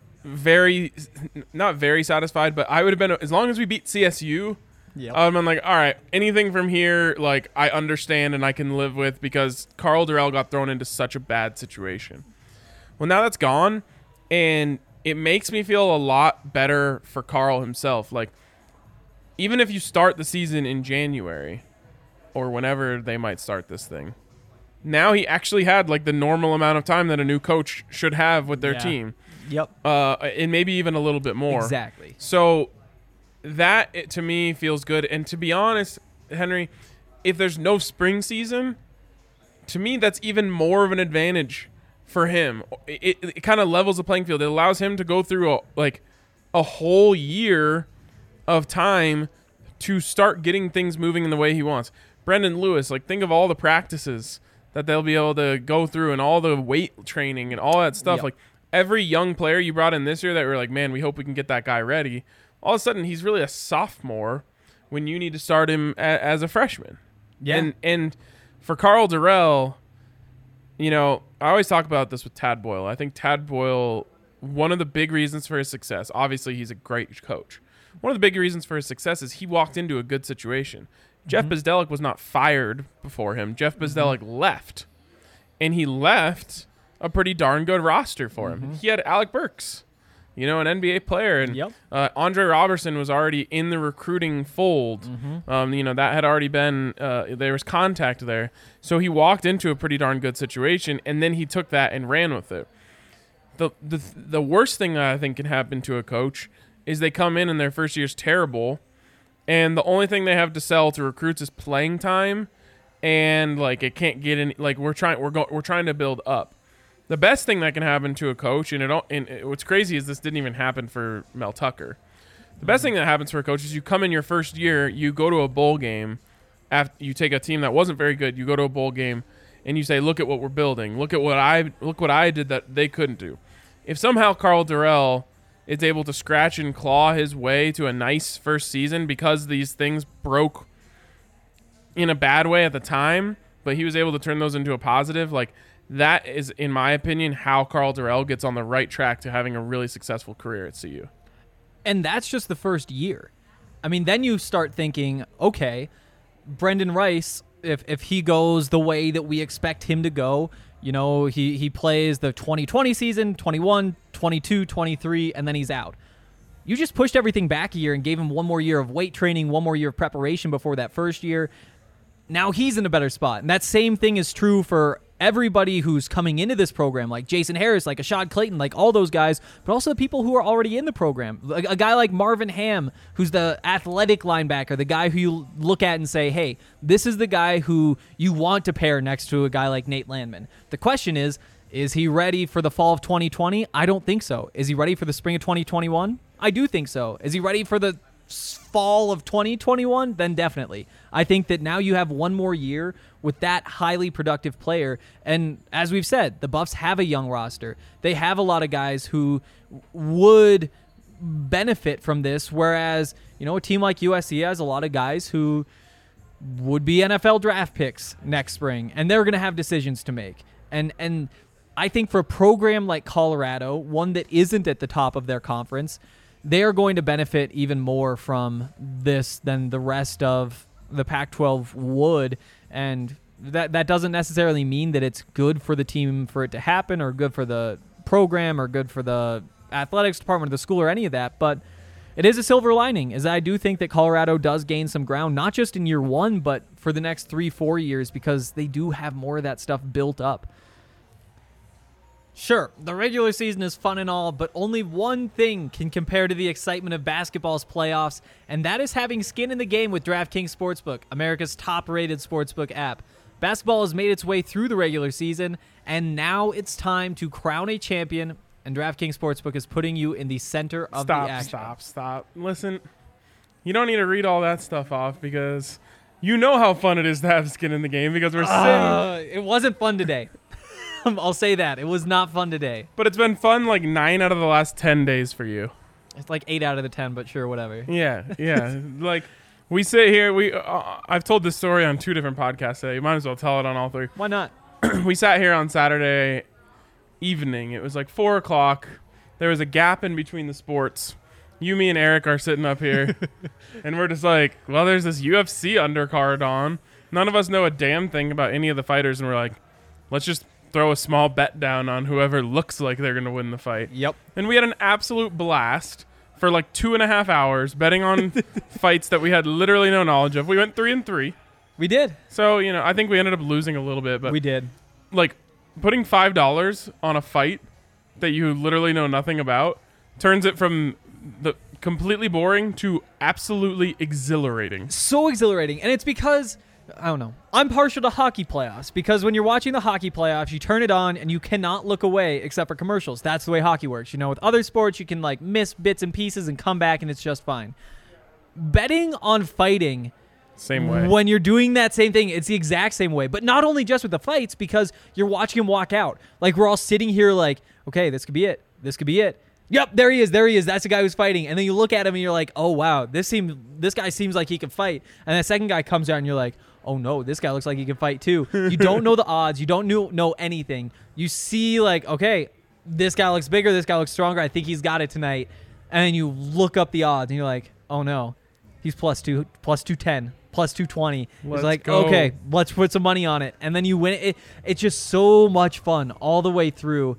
not very satisfied, but I would have been, as long as we beat CSU, I'm like, all right, anything from here, like, I understand and I can live with because Carl Durrell got thrown into such a bad situation. Well, now that's gone, and it makes me feel a lot better for Carl himself. Like, even if you start the season in January or whenever they might start this thing, now he actually had, like, the normal amount of time that a new coach should have with their team. Yep. And maybe even a little bit more. Exactly. So that, to me, feels good. And to be honest, Henry, if there's no spring season, to me, that's even more of an advantage for him. It kind of levels the playing field. It allows him to go through a whole year of time to start getting things moving in the way he wants. Brendan Lewis, like, think of all the practices that they'll be able to go through and all the weight training and all that stuff. Yep. Like, every young player you brought in this year that we're like, man, we hope we can get that guy ready. All of a sudden, he's really a sophomore when you need to start him as a freshman. Yeah. And for Karl Dorrell, you know, I always talk about this with Tad Boyle. I think Tad Boyle, one of the big reasons for his success, obviously he's a great coach. One of the big reasons for his success is he walked into a good situation. Jeff Bzdelik was not fired before him. Jeff Bzdelik left. And he left a pretty darn good roster for him. He had Alec Burks, you know, an NBA player. And Andre Robertson was already in the recruiting fold. You know, that had already been, there was contact there. So he walked into a pretty darn good situation, and then he took that and ran with it. The worst thing that I think can happen to a coach is they come in and their first year's terrible, and the only thing they have to sell to recruits is playing time, and like it can't get any. Like we're trying to build up. The best thing that can happen to a coach, and what's crazy is this didn't even happen for Mel Tucker. The best thing that happens for a coach is you come in your first year, you go to a bowl game, after you take a team that wasn't very good, you go to a bowl game, and you say, "Look at what we're building. Look what I did that they couldn't do." If somehow Karl Dorrell is able to scratch and claw his way to a nice first season because these things broke in a bad way at the time, but he was able to turn those into a positive, like that is, in my opinion, how Karl Dorrell gets on the right track to having a really successful career at CU. And that's just the first year. I mean, then you start thinking, okay, Brendan Rice, if he goes the way that we expect him to go, you know, he plays the 2020 season, 21, 22, 23, and then he's out. You just pushed everything back a year and gave him one more year of weight training, one more year of preparation before that first year. Now he's in a better spot. And that same thing is true for everybody who's coming into this program, like Jason Harris, like Ashad Clayton, like all those guys, but also the people who are already in the program. Like a guy like Marvin Ham, who's the athletic linebacker, the guy who you look at and say, hey, this is the guy who you want to pair next to a guy like Nate Landman. The question is he ready for the fall of 2020? I don't think so. Is he ready for the spring of 2021? I do think so. Is he ready for the fall of 2021? Then definitely. I think that now you have one more year with that highly productive player. And as we've said, the Buffs have a young roster. They have a lot of guys who would benefit from this, whereas, you know, a team like USC has a lot of guys who would be NFL draft picks next spring, and they're going to have decisions to make. And I think for a program like Colorado, one that isn't at the top of their conference, they are going to benefit even more from this than the rest of the Pac-12 would. And that doesn't necessarily mean that it's good for the team for it to happen, or good for the program, or good for the athletics department of the school, or any of that. But it is a silver lining, as I do think that Colorado does gain some ground, not just in year one, but for the next 3-4 years, because they do have more of that stuff built up. Sure, the regular season is fun and all, but only one thing can compare to the excitement of basketball's playoffs, and that is having skin in the game with DraftKings Sportsbook, America's top-rated sportsbook app. Basketball has made its way through the regular season, and now it's time to crown a champion, and DraftKings Sportsbook is putting you in the center of the action. Stop. Listen, you don't need to read all that stuff off, because you know how fun it is to have skin in the game, because we're saying... It wasn't fun today. I'll say that. It was not fun today. But it's been fun like 9 out of the last 10 days for you. It's like 8 out of the 10, but sure, whatever. Yeah. Like, we sit here, I've told this story on 2 different podcasts today. You might as well tell it on all 3. Why not? We sat here on Saturday evening. It was like 4 o'clock. There was a gap in between the sports. You, me, and Eric are sitting up here. And we're just like, well, there's this UFC undercard on. None of us know a damn thing about any of the fighters. And we're like, let's just throw a small bet down on whoever looks like they're going to win the fight. Yep. And we had an absolute blast for like 2.5 hours betting on fights that we had literally no knowledge of. We went 3-3. We did. So, you know, I think we ended up losing a little bit, but we did. Like, putting $5 on a fight that you literally know nothing about turns it from the completely boring to absolutely exhilarating. So exhilarating. And it's because I don't know. I'm partial to hockey playoffs because when you're watching the hockey playoffs, you turn it on and you cannot look away except for commercials. That's the way hockey works. You know, with other sports, you can like miss bits and pieces and come back and it's just fine. Betting on fighting, Same way. when you're doing that same thing, it's the exact same way. But not only just with the fights, because you're watching him walk out. Like, we're all sitting here like, okay, this could be it. This could be it. Yep, there he is. There he is. That's the guy who's fighting. And then you look at him and you're like, oh, wow, this guy seems like he can fight. And the second guy comes out and you're like, oh, no, this guy looks like he can fight too. You don't know the odds. You don't know anything. You see like, okay, this guy looks bigger. This guy looks stronger. I think he's got it tonight. And then you look up the odds and you're like, oh, no, he's plus 210. Plus 220. It's like, go. okay, let's put some money on it. And then you win it. It's just so much fun all the way through.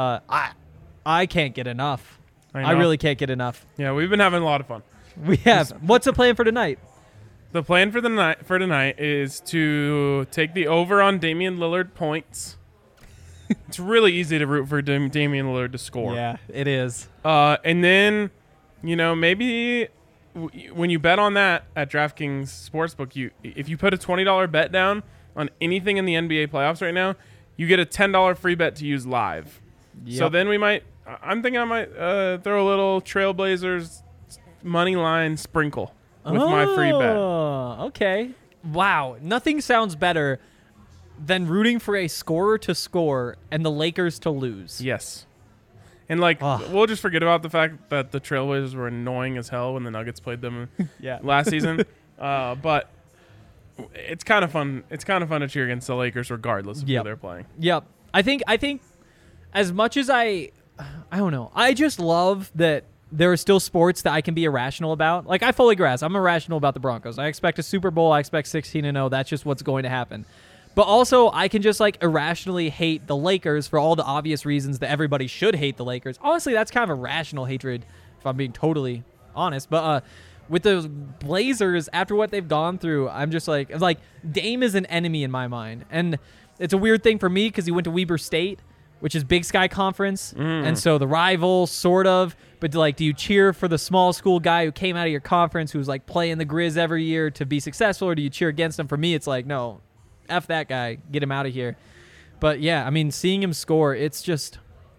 I can't get enough. I really can't get enough. Yeah, we've been having a lot of fun. We have. What's the plan for tonight? The plan for tonight is to take the over on Damian Lillard points. It's really easy to root for Damian Lillard to score. Yeah, it is. And then, maybe when you bet on that at DraftKings Sportsbook, if you put a $20 bet down on anything in the NBA playoffs right now, you get a $10 free bet to use live. Yep. So then I'm thinking I might throw a little Trailblazers money line sprinkle with my free bet. Okay. Wow. Nothing sounds better than rooting for a scorer to score and the Lakers to lose. Yes. And we'll just forget about the fact that the Trailblazers were annoying as hell when the Nuggets played them last season. But it's kind of fun. It's kind of fun to cheer against the Lakers regardless of who they're playing. Yep. I think as much as I don't know. I just love that there are still sports that I can be irrational about. Like, I fully grasp. I'm irrational about the Broncos. I expect a Super Bowl. I expect 16-0. That's just what's going to happen. But also, I can just, irrationally hate the Lakers for all the obvious reasons that everybody should hate the Lakers. Honestly, that's kind of a rational hatred, if I'm being totally honest. But with the Blazers, after what they've gone through, I'm just like, Dame is an enemy in my mind. And it's a weird thing for me because he went to Weber State, which is Big Sky Conference, and so the rival, sort of. But do you cheer for the small school guy who came out of your conference who's playing the Grizz every year to be successful, or do you cheer against him? For me, it's no, F that guy, get him out of here. But yeah, I mean, seeing him score, it's just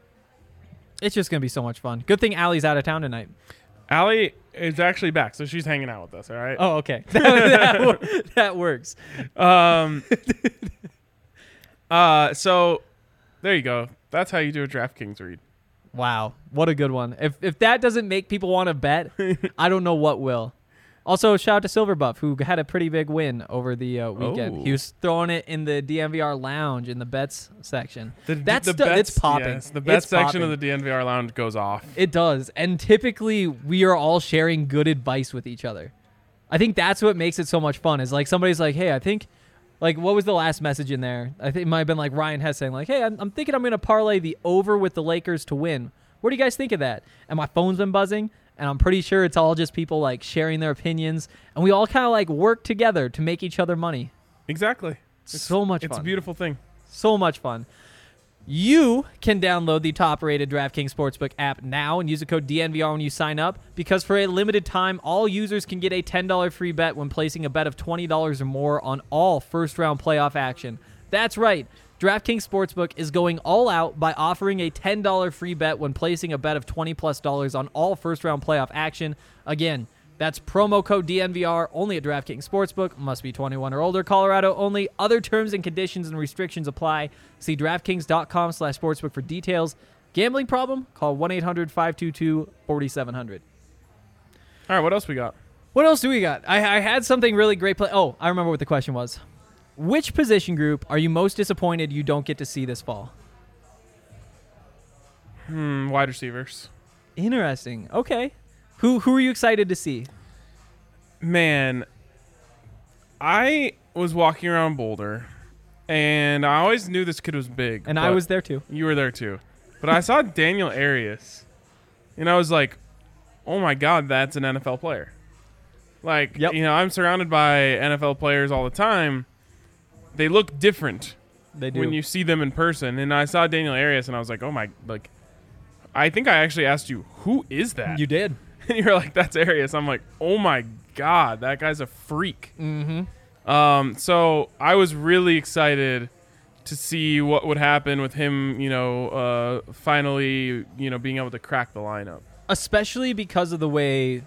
gonna be so much fun. Good thing Allie's out of town tonight. Allie is actually back, so she's hanging out with us. All right. Oh, okay, that works. So there you go. That's how you do a DraftKings read. Wow, what a good one. If that doesn't make people want to bet, I don't know what will. Also, shout out to Silverbuff, who had a pretty big win over the weekend. Oh. He was throwing it in the DNVR lounge in the bets section. It's popping. Yes, the bet section popping. of the DNVR lounge goes off. It does. And typically, we are all sharing good advice with each other. I think that's what makes it so much fun, is somebody's like, hey, I think... what was the last message in there? I think it might have been Ryan Hess saying hey, I'm thinking I'm going to parlay the over with the Lakers to win. What do you guys think of that? And my phone's been buzzing, and I'm pretty sure it's all just people sharing their opinions, and we all kind of work together to make each other money. Exactly. It's so much fun. It's a beautiful thing. So much fun. You can download the top-rated DraftKings Sportsbook app now and use the code DNVR when you sign up, because for a limited time, all users can get a $10 free bet when placing a bet of $20 or more on all first-round playoff action. That's right. DraftKings Sportsbook is going all out by offering a $10 free bet when placing a bet of $20+ on all first-round playoff action. Again, that's promo code DNVR only at DraftKings Sportsbook. Must be 21 or older. Colorado only. Other terms and conditions and restrictions apply. See DraftKings.com/sportsbook for details. Gambling problem? Call 1-800-522-4700. All right, what else we got? What else do we got? I had something really great. Oh, I remember what the question was. Which position group are you most disappointed you don't get to see this fall? Wide receivers. Interesting. Okay. Who are you excited to see? Man, I was walking around Boulder, and I always knew this kid was big. And I was there too. You were there too. But I saw Daniel Arias, and I was like, oh my God, that's an NFL player. Yep. I'm surrounded by NFL players all the time. They look different. They do. When you see them in person. And I saw Daniel Arias, and I was like, oh my, I think I actually asked you, who is that? You did. And you're like, that's Arias. I'm like, oh my God, that guy's a freak. Mm-hmm. So I was really excited to see what would happen with him, finally, being able to crack the lineup. Especially because of the way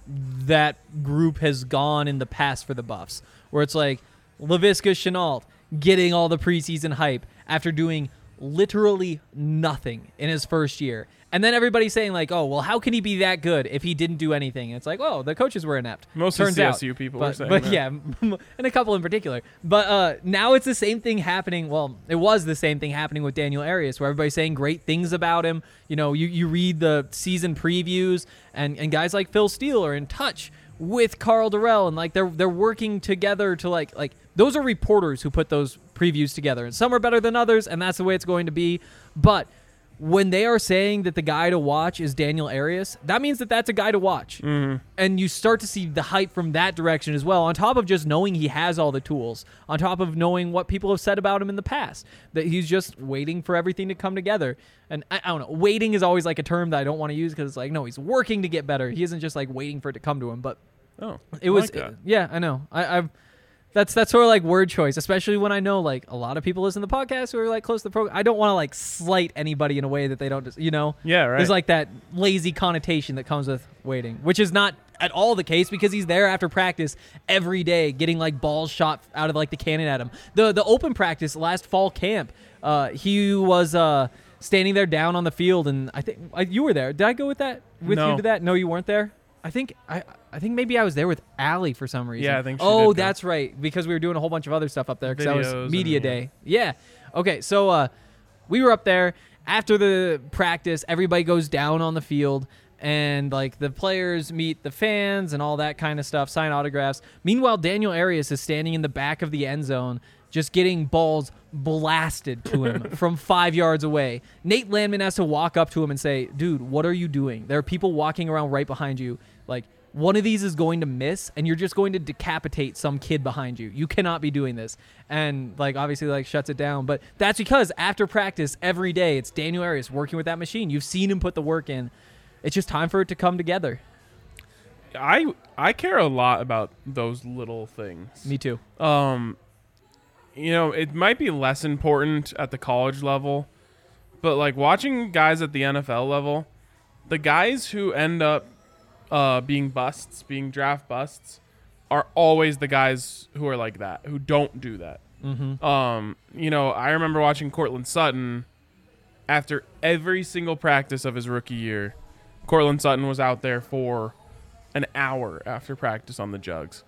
that group has gone in the past for the Buffs, where it's like Laviska Shenault getting all the preseason hype after doing literally nothing in his first year. And then everybody's saying like, oh, well, how can he be that good if he didn't do anything? And it's like, oh, the coaches were inept. Mostly Turns CSU out. people but, were saying but that. yeah, and a couple in particular. But now it's the same thing happening. Well, it was the same thing happening with Daniel Arias, where everybody's saying great things about him. You read the season previews, and guys like Phil Steele are in touch with Carl Durrell, and like they're working together to like those are reporters who put those previews together, and some are better than others, and that's the way it's going to be. But when they are saying that the guy to watch is Daniel Arias, that means that that's a guy to watch. Mm-hmm. And you start to see the hype from that direction as well, on top of just knowing he has all the tools, on top of knowing what people have said about him in the past, that he's just waiting for everything to come together. And I don't know, waiting is always like a term that I don't want to use, because it's like, no, he's working to get better. He isn't just like waiting for it to come to him. But it was, like that. yeah, I know. I've That's sort of like word choice, especially when I know like a lot of people listen to the podcast who are like close to the program. I don't want to like slight anybody in a way that they don't, Yeah, right. There's like that lazy connotation that comes with waiting, which is not at all the case, because he's there after practice every day, getting like balls shot out of like the cannon at him. The open practice last fall camp, he was standing there down on the field, and I think you were there. Did I go with that you to that? No, you weren't there. I think maybe I was there with Allie for some reason. Yeah, I think she Oh, did go. that's right, because we were doing a whole bunch of other stuff up there, because that was Videos media and, day. Yeah. Okay, so we were up there after the practice. Everybody goes down on the field, and like the players meet the fans and all that kind of stuff, sign autographs. Meanwhile, Daniel Arias is standing in the back of the end zone, just getting balls blasted to him from 5 yards away. Nate Landman has to walk up to him and say, dude, what are you doing? There are people walking around right behind you. Like, one of these is going to miss, and you're just going to decapitate some kid behind you. You cannot be doing this. And, like, obviously, like, shuts it down. But that's because after practice, every day, it's Daniel Arias working with that machine. You've seen him put the work in. It's just time for it to come together. I care a lot about those little things. Me too. It might be less important at the college level, but like watching guys at the NFL level, the guys who end up being draft busts, are always the guys who are like that, who don't do that. Mm-hmm. I remember watching Cortland Sutton after every single practice of his rookie year. Cortland Sutton was out there for an hour after practice on the jugs.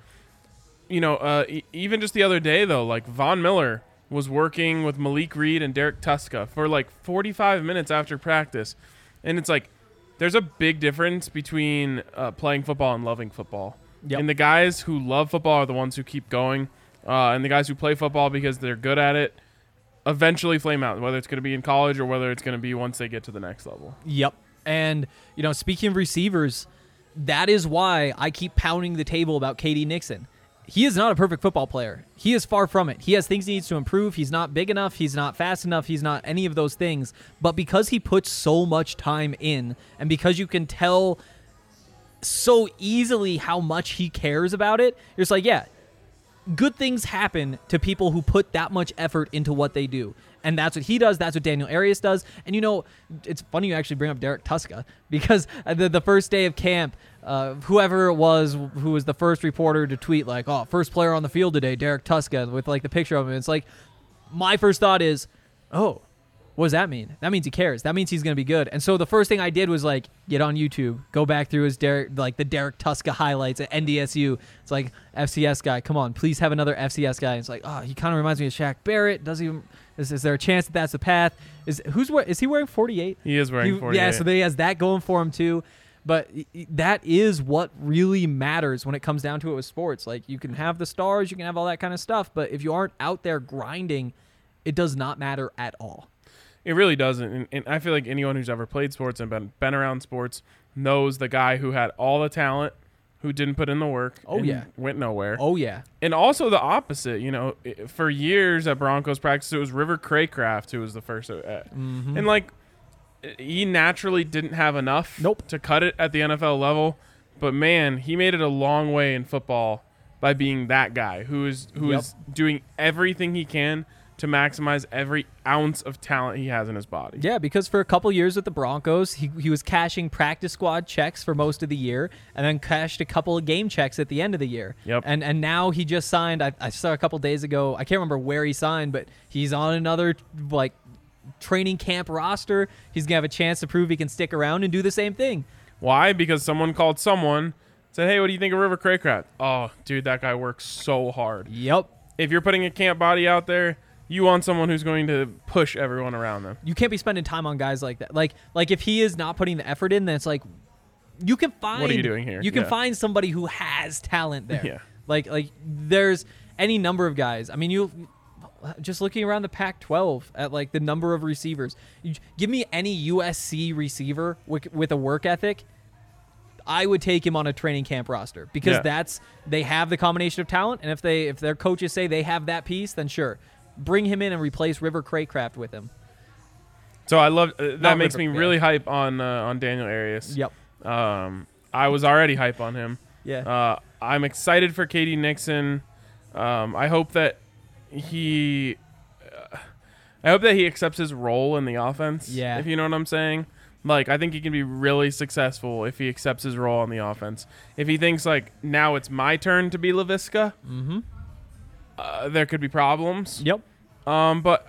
Even just the other day, though, like Von Miller was working with Malik Reed and Derek Tuska for like 45 minutes after practice. And it's like, there's a big difference between playing football and loving football. Yep. And the guys who love football are the ones who keep going. And the guys who play football because they're good at it eventually flame out, whether it's going to be in college or whether it's going to be once they get to the next level. Yep. And, speaking of receivers, that is why I keep pounding the table about KD Nixon. He is not a perfect football player. He is far from it. He has things he needs to improve. He's not big enough. He's not fast enough. He's not any of those things. But because he puts so much time in, and because you can tell so easily how much he cares about it, you're just like, yeah, good things happen to people who put that much effort into what they do. And that's what he does. That's what Daniel Arias does. And, it's funny you actually bring up Derek Tuska, because the first day of camp, whoever it was who was the first reporter to tweet like, oh, first player on the field today, Derek Tuska, with like the picture of him. It's like, my first thought is, oh, what does that mean? That means he cares. That means he's going to be good. And so the first thing I did was like get on YouTube, go back through his the Derek Tuska highlights at NDSU. It's like, FCS guy, come on, please have another FCS guy. It's like, oh, he kind of reminds me of Shaq Barrett. Is there a chance that that's the path? Is he wearing 48? He is wearing 48. Yeah, so he has that going for him too. But that is what really matters when it comes down to it with sports. Like, you can have the stars, you can have all that kind of stuff, but if you aren't out there grinding, it does not matter at all. It really doesn't. And I feel like anyone who's ever played sports and been around sports knows the guy who had all the talent, who didn't put in the work. Oh, and yeah. Went nowhere. Oh, yeah. And also the opposite. For years at Broncos practice, it was River Craycraft who was the first. Mm-hmm. And, like, he naturally didn't have enough Nope. to cut it at the NFL level. But, man, he made it a long way in football by being that guy who is doing everything he can to maximize every ounce of talent he has in his body. Yeah, because for a couple years with the Broncos, he was cashing practice squad checks for most of the year and then cashed a couple of game checks at the end of the year. Yep. And now he just signed, I saw a couple days ago, I can't remember where he signed, but he's on another training camp roster. He's going to have a chance to prove he can stick around and do the same thing. Why? Because someone called someone, said, hey, what do you think of River Craycraft? Oh, dude, that guy works so hard. Yep. If you're putting a camp body out there, you want someone who's going to push everyone around them. You can't be spending time on guys like that. Like if he is not putting the effort in, then it's like you can find. What are you doing here? You can find somebody who has talent there. Yeah. Like there's any number of guys. I mean, you just looking around the Pac-12 at like the number of receivers. Give me any USC receiver with a work ethic. I would take him on a training camp roster because they have the combination of talent, and if their coaches say they have that piece, then sure. Bring him in and replace River Craycraft with him. So I love that. Makes me really hype on Daniel Arias. Yep. I was already hype on him. Yeah. I'm excited for KD Nixon. I hope that he accepts his role in the offense. Yeah. If you know what I'm saying. Like, I think he can be really successful if he accepts his role on the offense. If he thinks like now it's my turn to be Laviska. Mm-hmm. There could be problems. Yep. But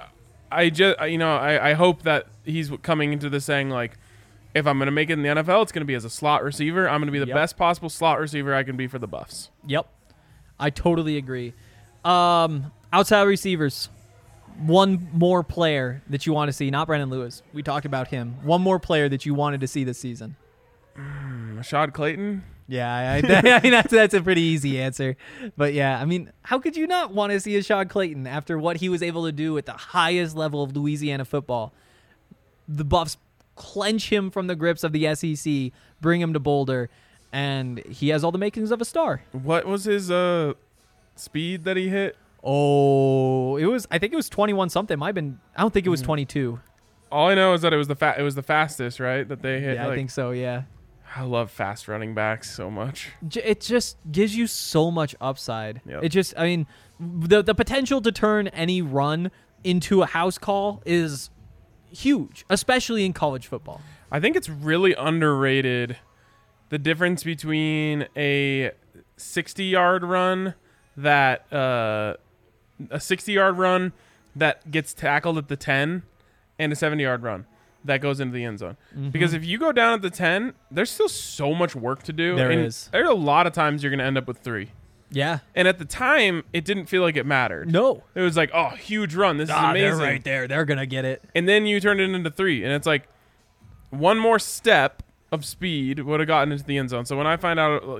I hope that he's coming into this saying like, if I'm going to make it in the NFL, it's going to be as a slot receiver. I'm going to be the best possible slot receiver I can be for the Buffs. Yep. I totally agree. Outside receivers, one more player that you want to see, not Brandon Lewis. We talked about him. One more player that you wanted to see this season. Rashad Clayton? Yeah, I mean that's a pretty easy answer. But yeah, I mean, how could you not want to see Rashad Clayton after what he was able to do at the highest level of Louisiana football? The Buffs clench him from the grips of the SEC, bring him to Boulder, and he has all the makings of a star. What was his speed that he hit? Oh, I think it was 21 something. Might have been. I don't think it was 22. All I know is that it was the fastest, right? That they hit. Yeah, I think so. Yeah. I love fast running backs so much. It just gives you so much upside. Yep. It just, I mean, the potential to turn any run into a house call is huge, especially in college football. I think it's really underrated, the difference between a 60-yard run that a 60-yard run that gets tackled at the 10 and a 70-yard run that goes into the end zone. Mm-hmm. Because if you go down at the 10, there's still so much work to do. There is. There's a lot of times you're going to end up with 3. Yeah. And at the time, it didn't feel like it mattered. No. It was like, oh, huge run. This is amazing. They're right there. They're going to get it. And then you turned it into 3. And it's like one more step of speed would have gotten into the end zone. So when I find out,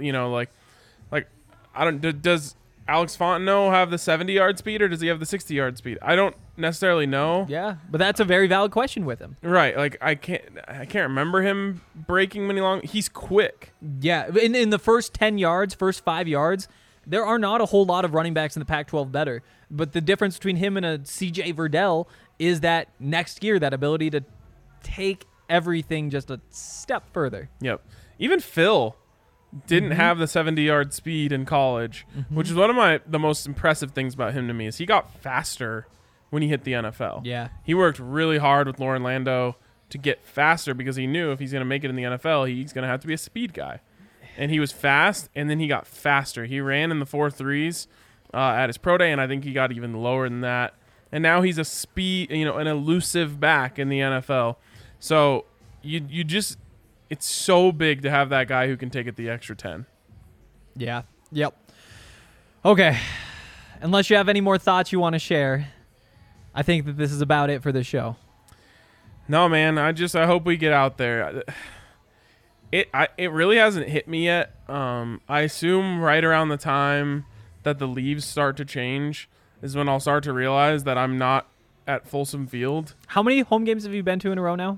does Alex Fontenot have the 70-yard speed or does he have the 60-yard speed? I don't necessarily know. Yeah, but that's a very valid question with him. Right. Like I can't remember him breaking many long. He's quick. Yeah, in the first 10 yards, first 5 yards, there are not a whole lot of running backs in the Pac-12 better. But the difference between him and a CJ Verdell is that next year, that ability to take everything just a step further. Yep. Even Phil didn't have the 70-yard speed in college, which is one of the most impressive things about him to me is he got faster when he hit the NFL. Yeah. He worked really hard with Lauren Lando to get faster because he knew if he's going to make it in the NFL, he's going to have to be a speed guy. And he was fast, and then he got faster. He ran in the 4.3s at his pro day, and I think he got even lower than that. And now he's an elusive back in the NFL. So you just – it's so big to have that guy who can take it the extra 10. Yeah. Yep. Okay. Unless you have any more thoughts you want to share, I think that this is about it for the show. No, man. I hope we get out there. It really hasn't hit me yet. I assume right around the time that the leaves start to change is when I'll start to realize that I'm not at Folsom Field. How many home games have you been to in a row now?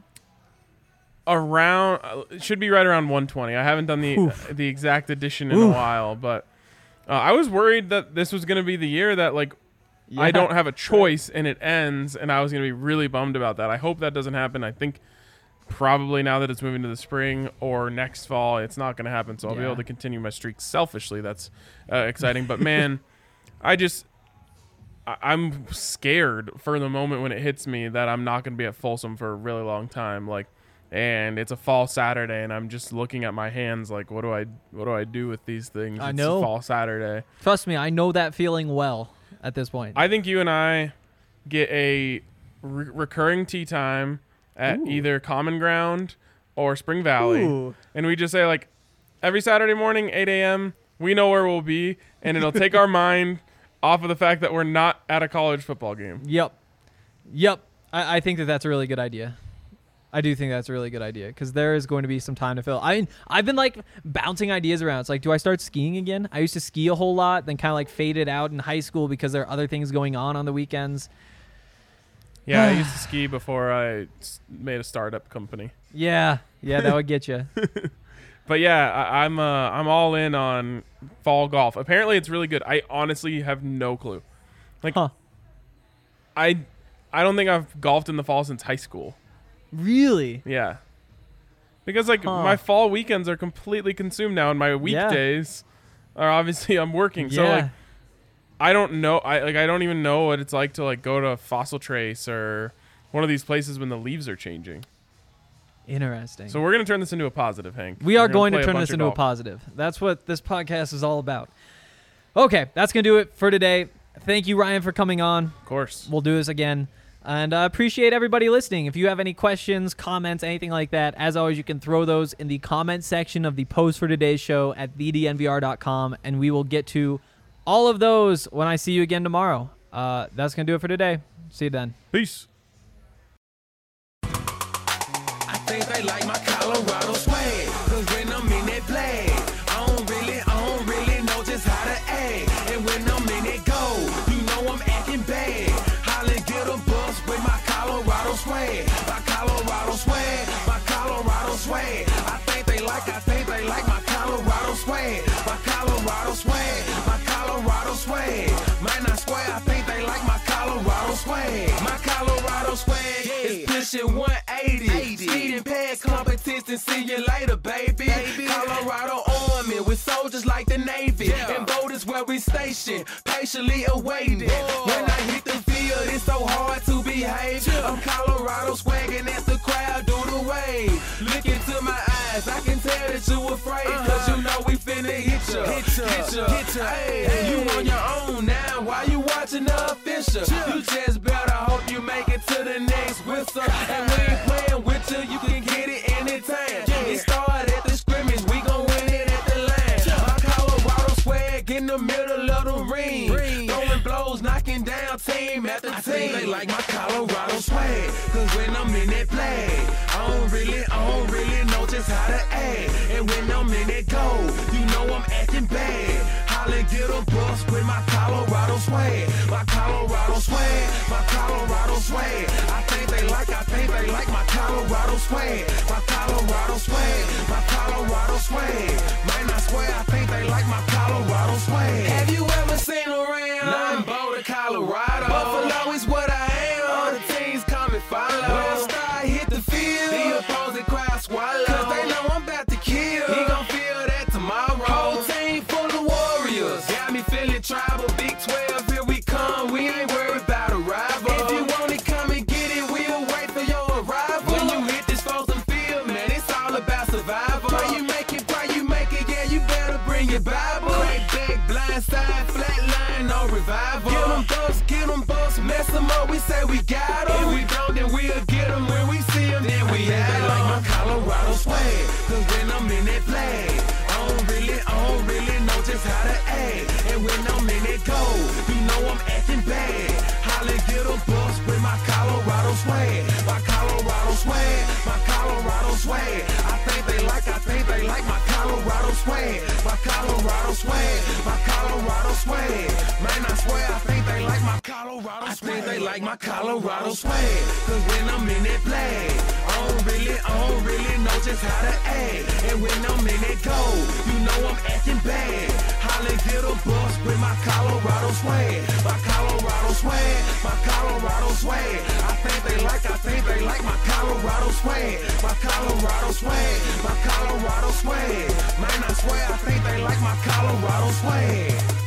It should be right around 120. I haven't done the exact addition in a while, but I was worried that this was going to be the year that I don't have a choice and it ends, and I was going to be really bummed about that. I hope that doesn't happen. I think probably now that it's moving to the spring or next fall, it's not going to happen. So I'll be able to continue my streak selfishly. That's exciting. But man, I'm scared for the moment when it hits me that I'm not going to be at Folsom for a really long time. And it's a fall Saturday, and I'm just looking at my hands like, what do I do with these things? I know. It's a fall Saturday. Trust me, I know that feeling well at this point. I think you and I get a recurring tea time at either Common Ground or Spring Valley, and we just say like every Saturday morning, 8 a.m. we know where we'll be, and it'll take our mind off of the fact that we're not at a college football game. Yep. I think that's a really good idea. I do think that's a really good idea because there is going to be some time to fill. I've been like bouncing ideas around. It's like, do I start skiing again? I used to ski a whole lot, then kind of like faded out in high school because there are other things going on the weekends. Yeah, I used to ski before I made a startup company. Yeah, that would get you. But yeah, I'm all in on fall golf. Apparently, it's really good. I honestly have no clue. I don't think I've golfed in the fall since high school. Really? Yeah. Because my fall weekends are completely consumed now, and my weekdays are obviously I'm working. Yeah. So I don't know. I don't even know what it's like to go to Fossil Trace or one of these places when the leaves are changing. Interesting. So we're going to turn this into a positive, Hank. We are going to turn this into a positive. That's what this podcast is all about. Okay, that's going to do it for today. Thank you, Ryan, for coming on. Of course. We'll do this again. And I appreciate everybody listening. If you have any questions, comments, anything like that, as always, you can throw those in the comment section of the post for today's show at thednvr.com, and we will get to all of those when I see you again tomorrow. That's going to do it for today. See you then. Peace. I think they like my Colorado swag, 'cause when I'm in that play, I don't really know just how to act. And when I'm in that go, you know I'm acting bad. Holla, get a bus with my Colorado swag. My Colorado swag, my Colorado swag. I think they like my Colorado swag. My Colorado swag, my Colorado swag. Man, I swear, I think they like my Colorado swag. My Colorado swag is pushing 180. Speeding past competition, see you later, baby. Colorado Army with soldiers like the Navy. And boat is where we station, patiently awaiting. When I hit the field, it's so hard to behave. I'm Colorado swagging as the crowd do the wave. Look into my eyes, I can tell that you afraid. 'Cause you know we finna hit ya. Hey, you on your own now, why you watching the official? You just better hope you make it to the next whistle. And we ain't playing with you, you can get it anytime. It started at the scrimmage, we gon' win it at the line. My Colorado swag in the middle of the ring. Throwing blows, knocking down team after team. I think they like my Colorado swag, 'cause when I'm in that play, I don't really know just how to act. And when I'm in that go, you know I'm acting bad. Holla, get a bus with my Colorado swag. My Colorado swag, my Colorado swag. I think they like my Colorado swag. My Colorado swag, my Colorado swag. Man, I swear, I think they like my Colorado swag. Have you ever seen around? Nothing but Colorado. Buffalo is what I am. All the teams come and follow. When I start hit the field, the opposing crowd swallow. 'Cause they know I'm about to kill. He gon' feel that tomorrow. Whole team full of warriors. Got me feeling tribal. Big 12, here we come. We ain't worried about a rival. If you want it, come and get it. We'll wait for your arrival. When you hit this frozen field, man, it's all about survival. Pray you make it, yeah, you better bring your Bible. Crack back, blind side, flat line, no revival. Get them bucks, mess them up, we say we got them. If we don't, then we'll get them. When we see them, then we have them. Like my Colorado swag, 'cause when I'm in that flag, I don't really know just how to act. And when I'm in that go, you know I'm acting bad. Holla, get a bus with my Colorado swag. My Colorado swag, my Colorado swag. I think they like my Colorado swag. My Colorado swag, my Colorado swag. Man, I swear, I think they like my Colorado swag. I think they like my Colorado swag. 'Cause when I'm in that flag, I don't really know just how to act. And when I'm in that go, you know I'm acting bad. Holla, get a bus with my Colorado swag. My Colorado swag, my Colorado swag. I think they like my Colorado swag, my Colorado swag, my Colorado swag. Man, I swear I think they like my Colorado swag.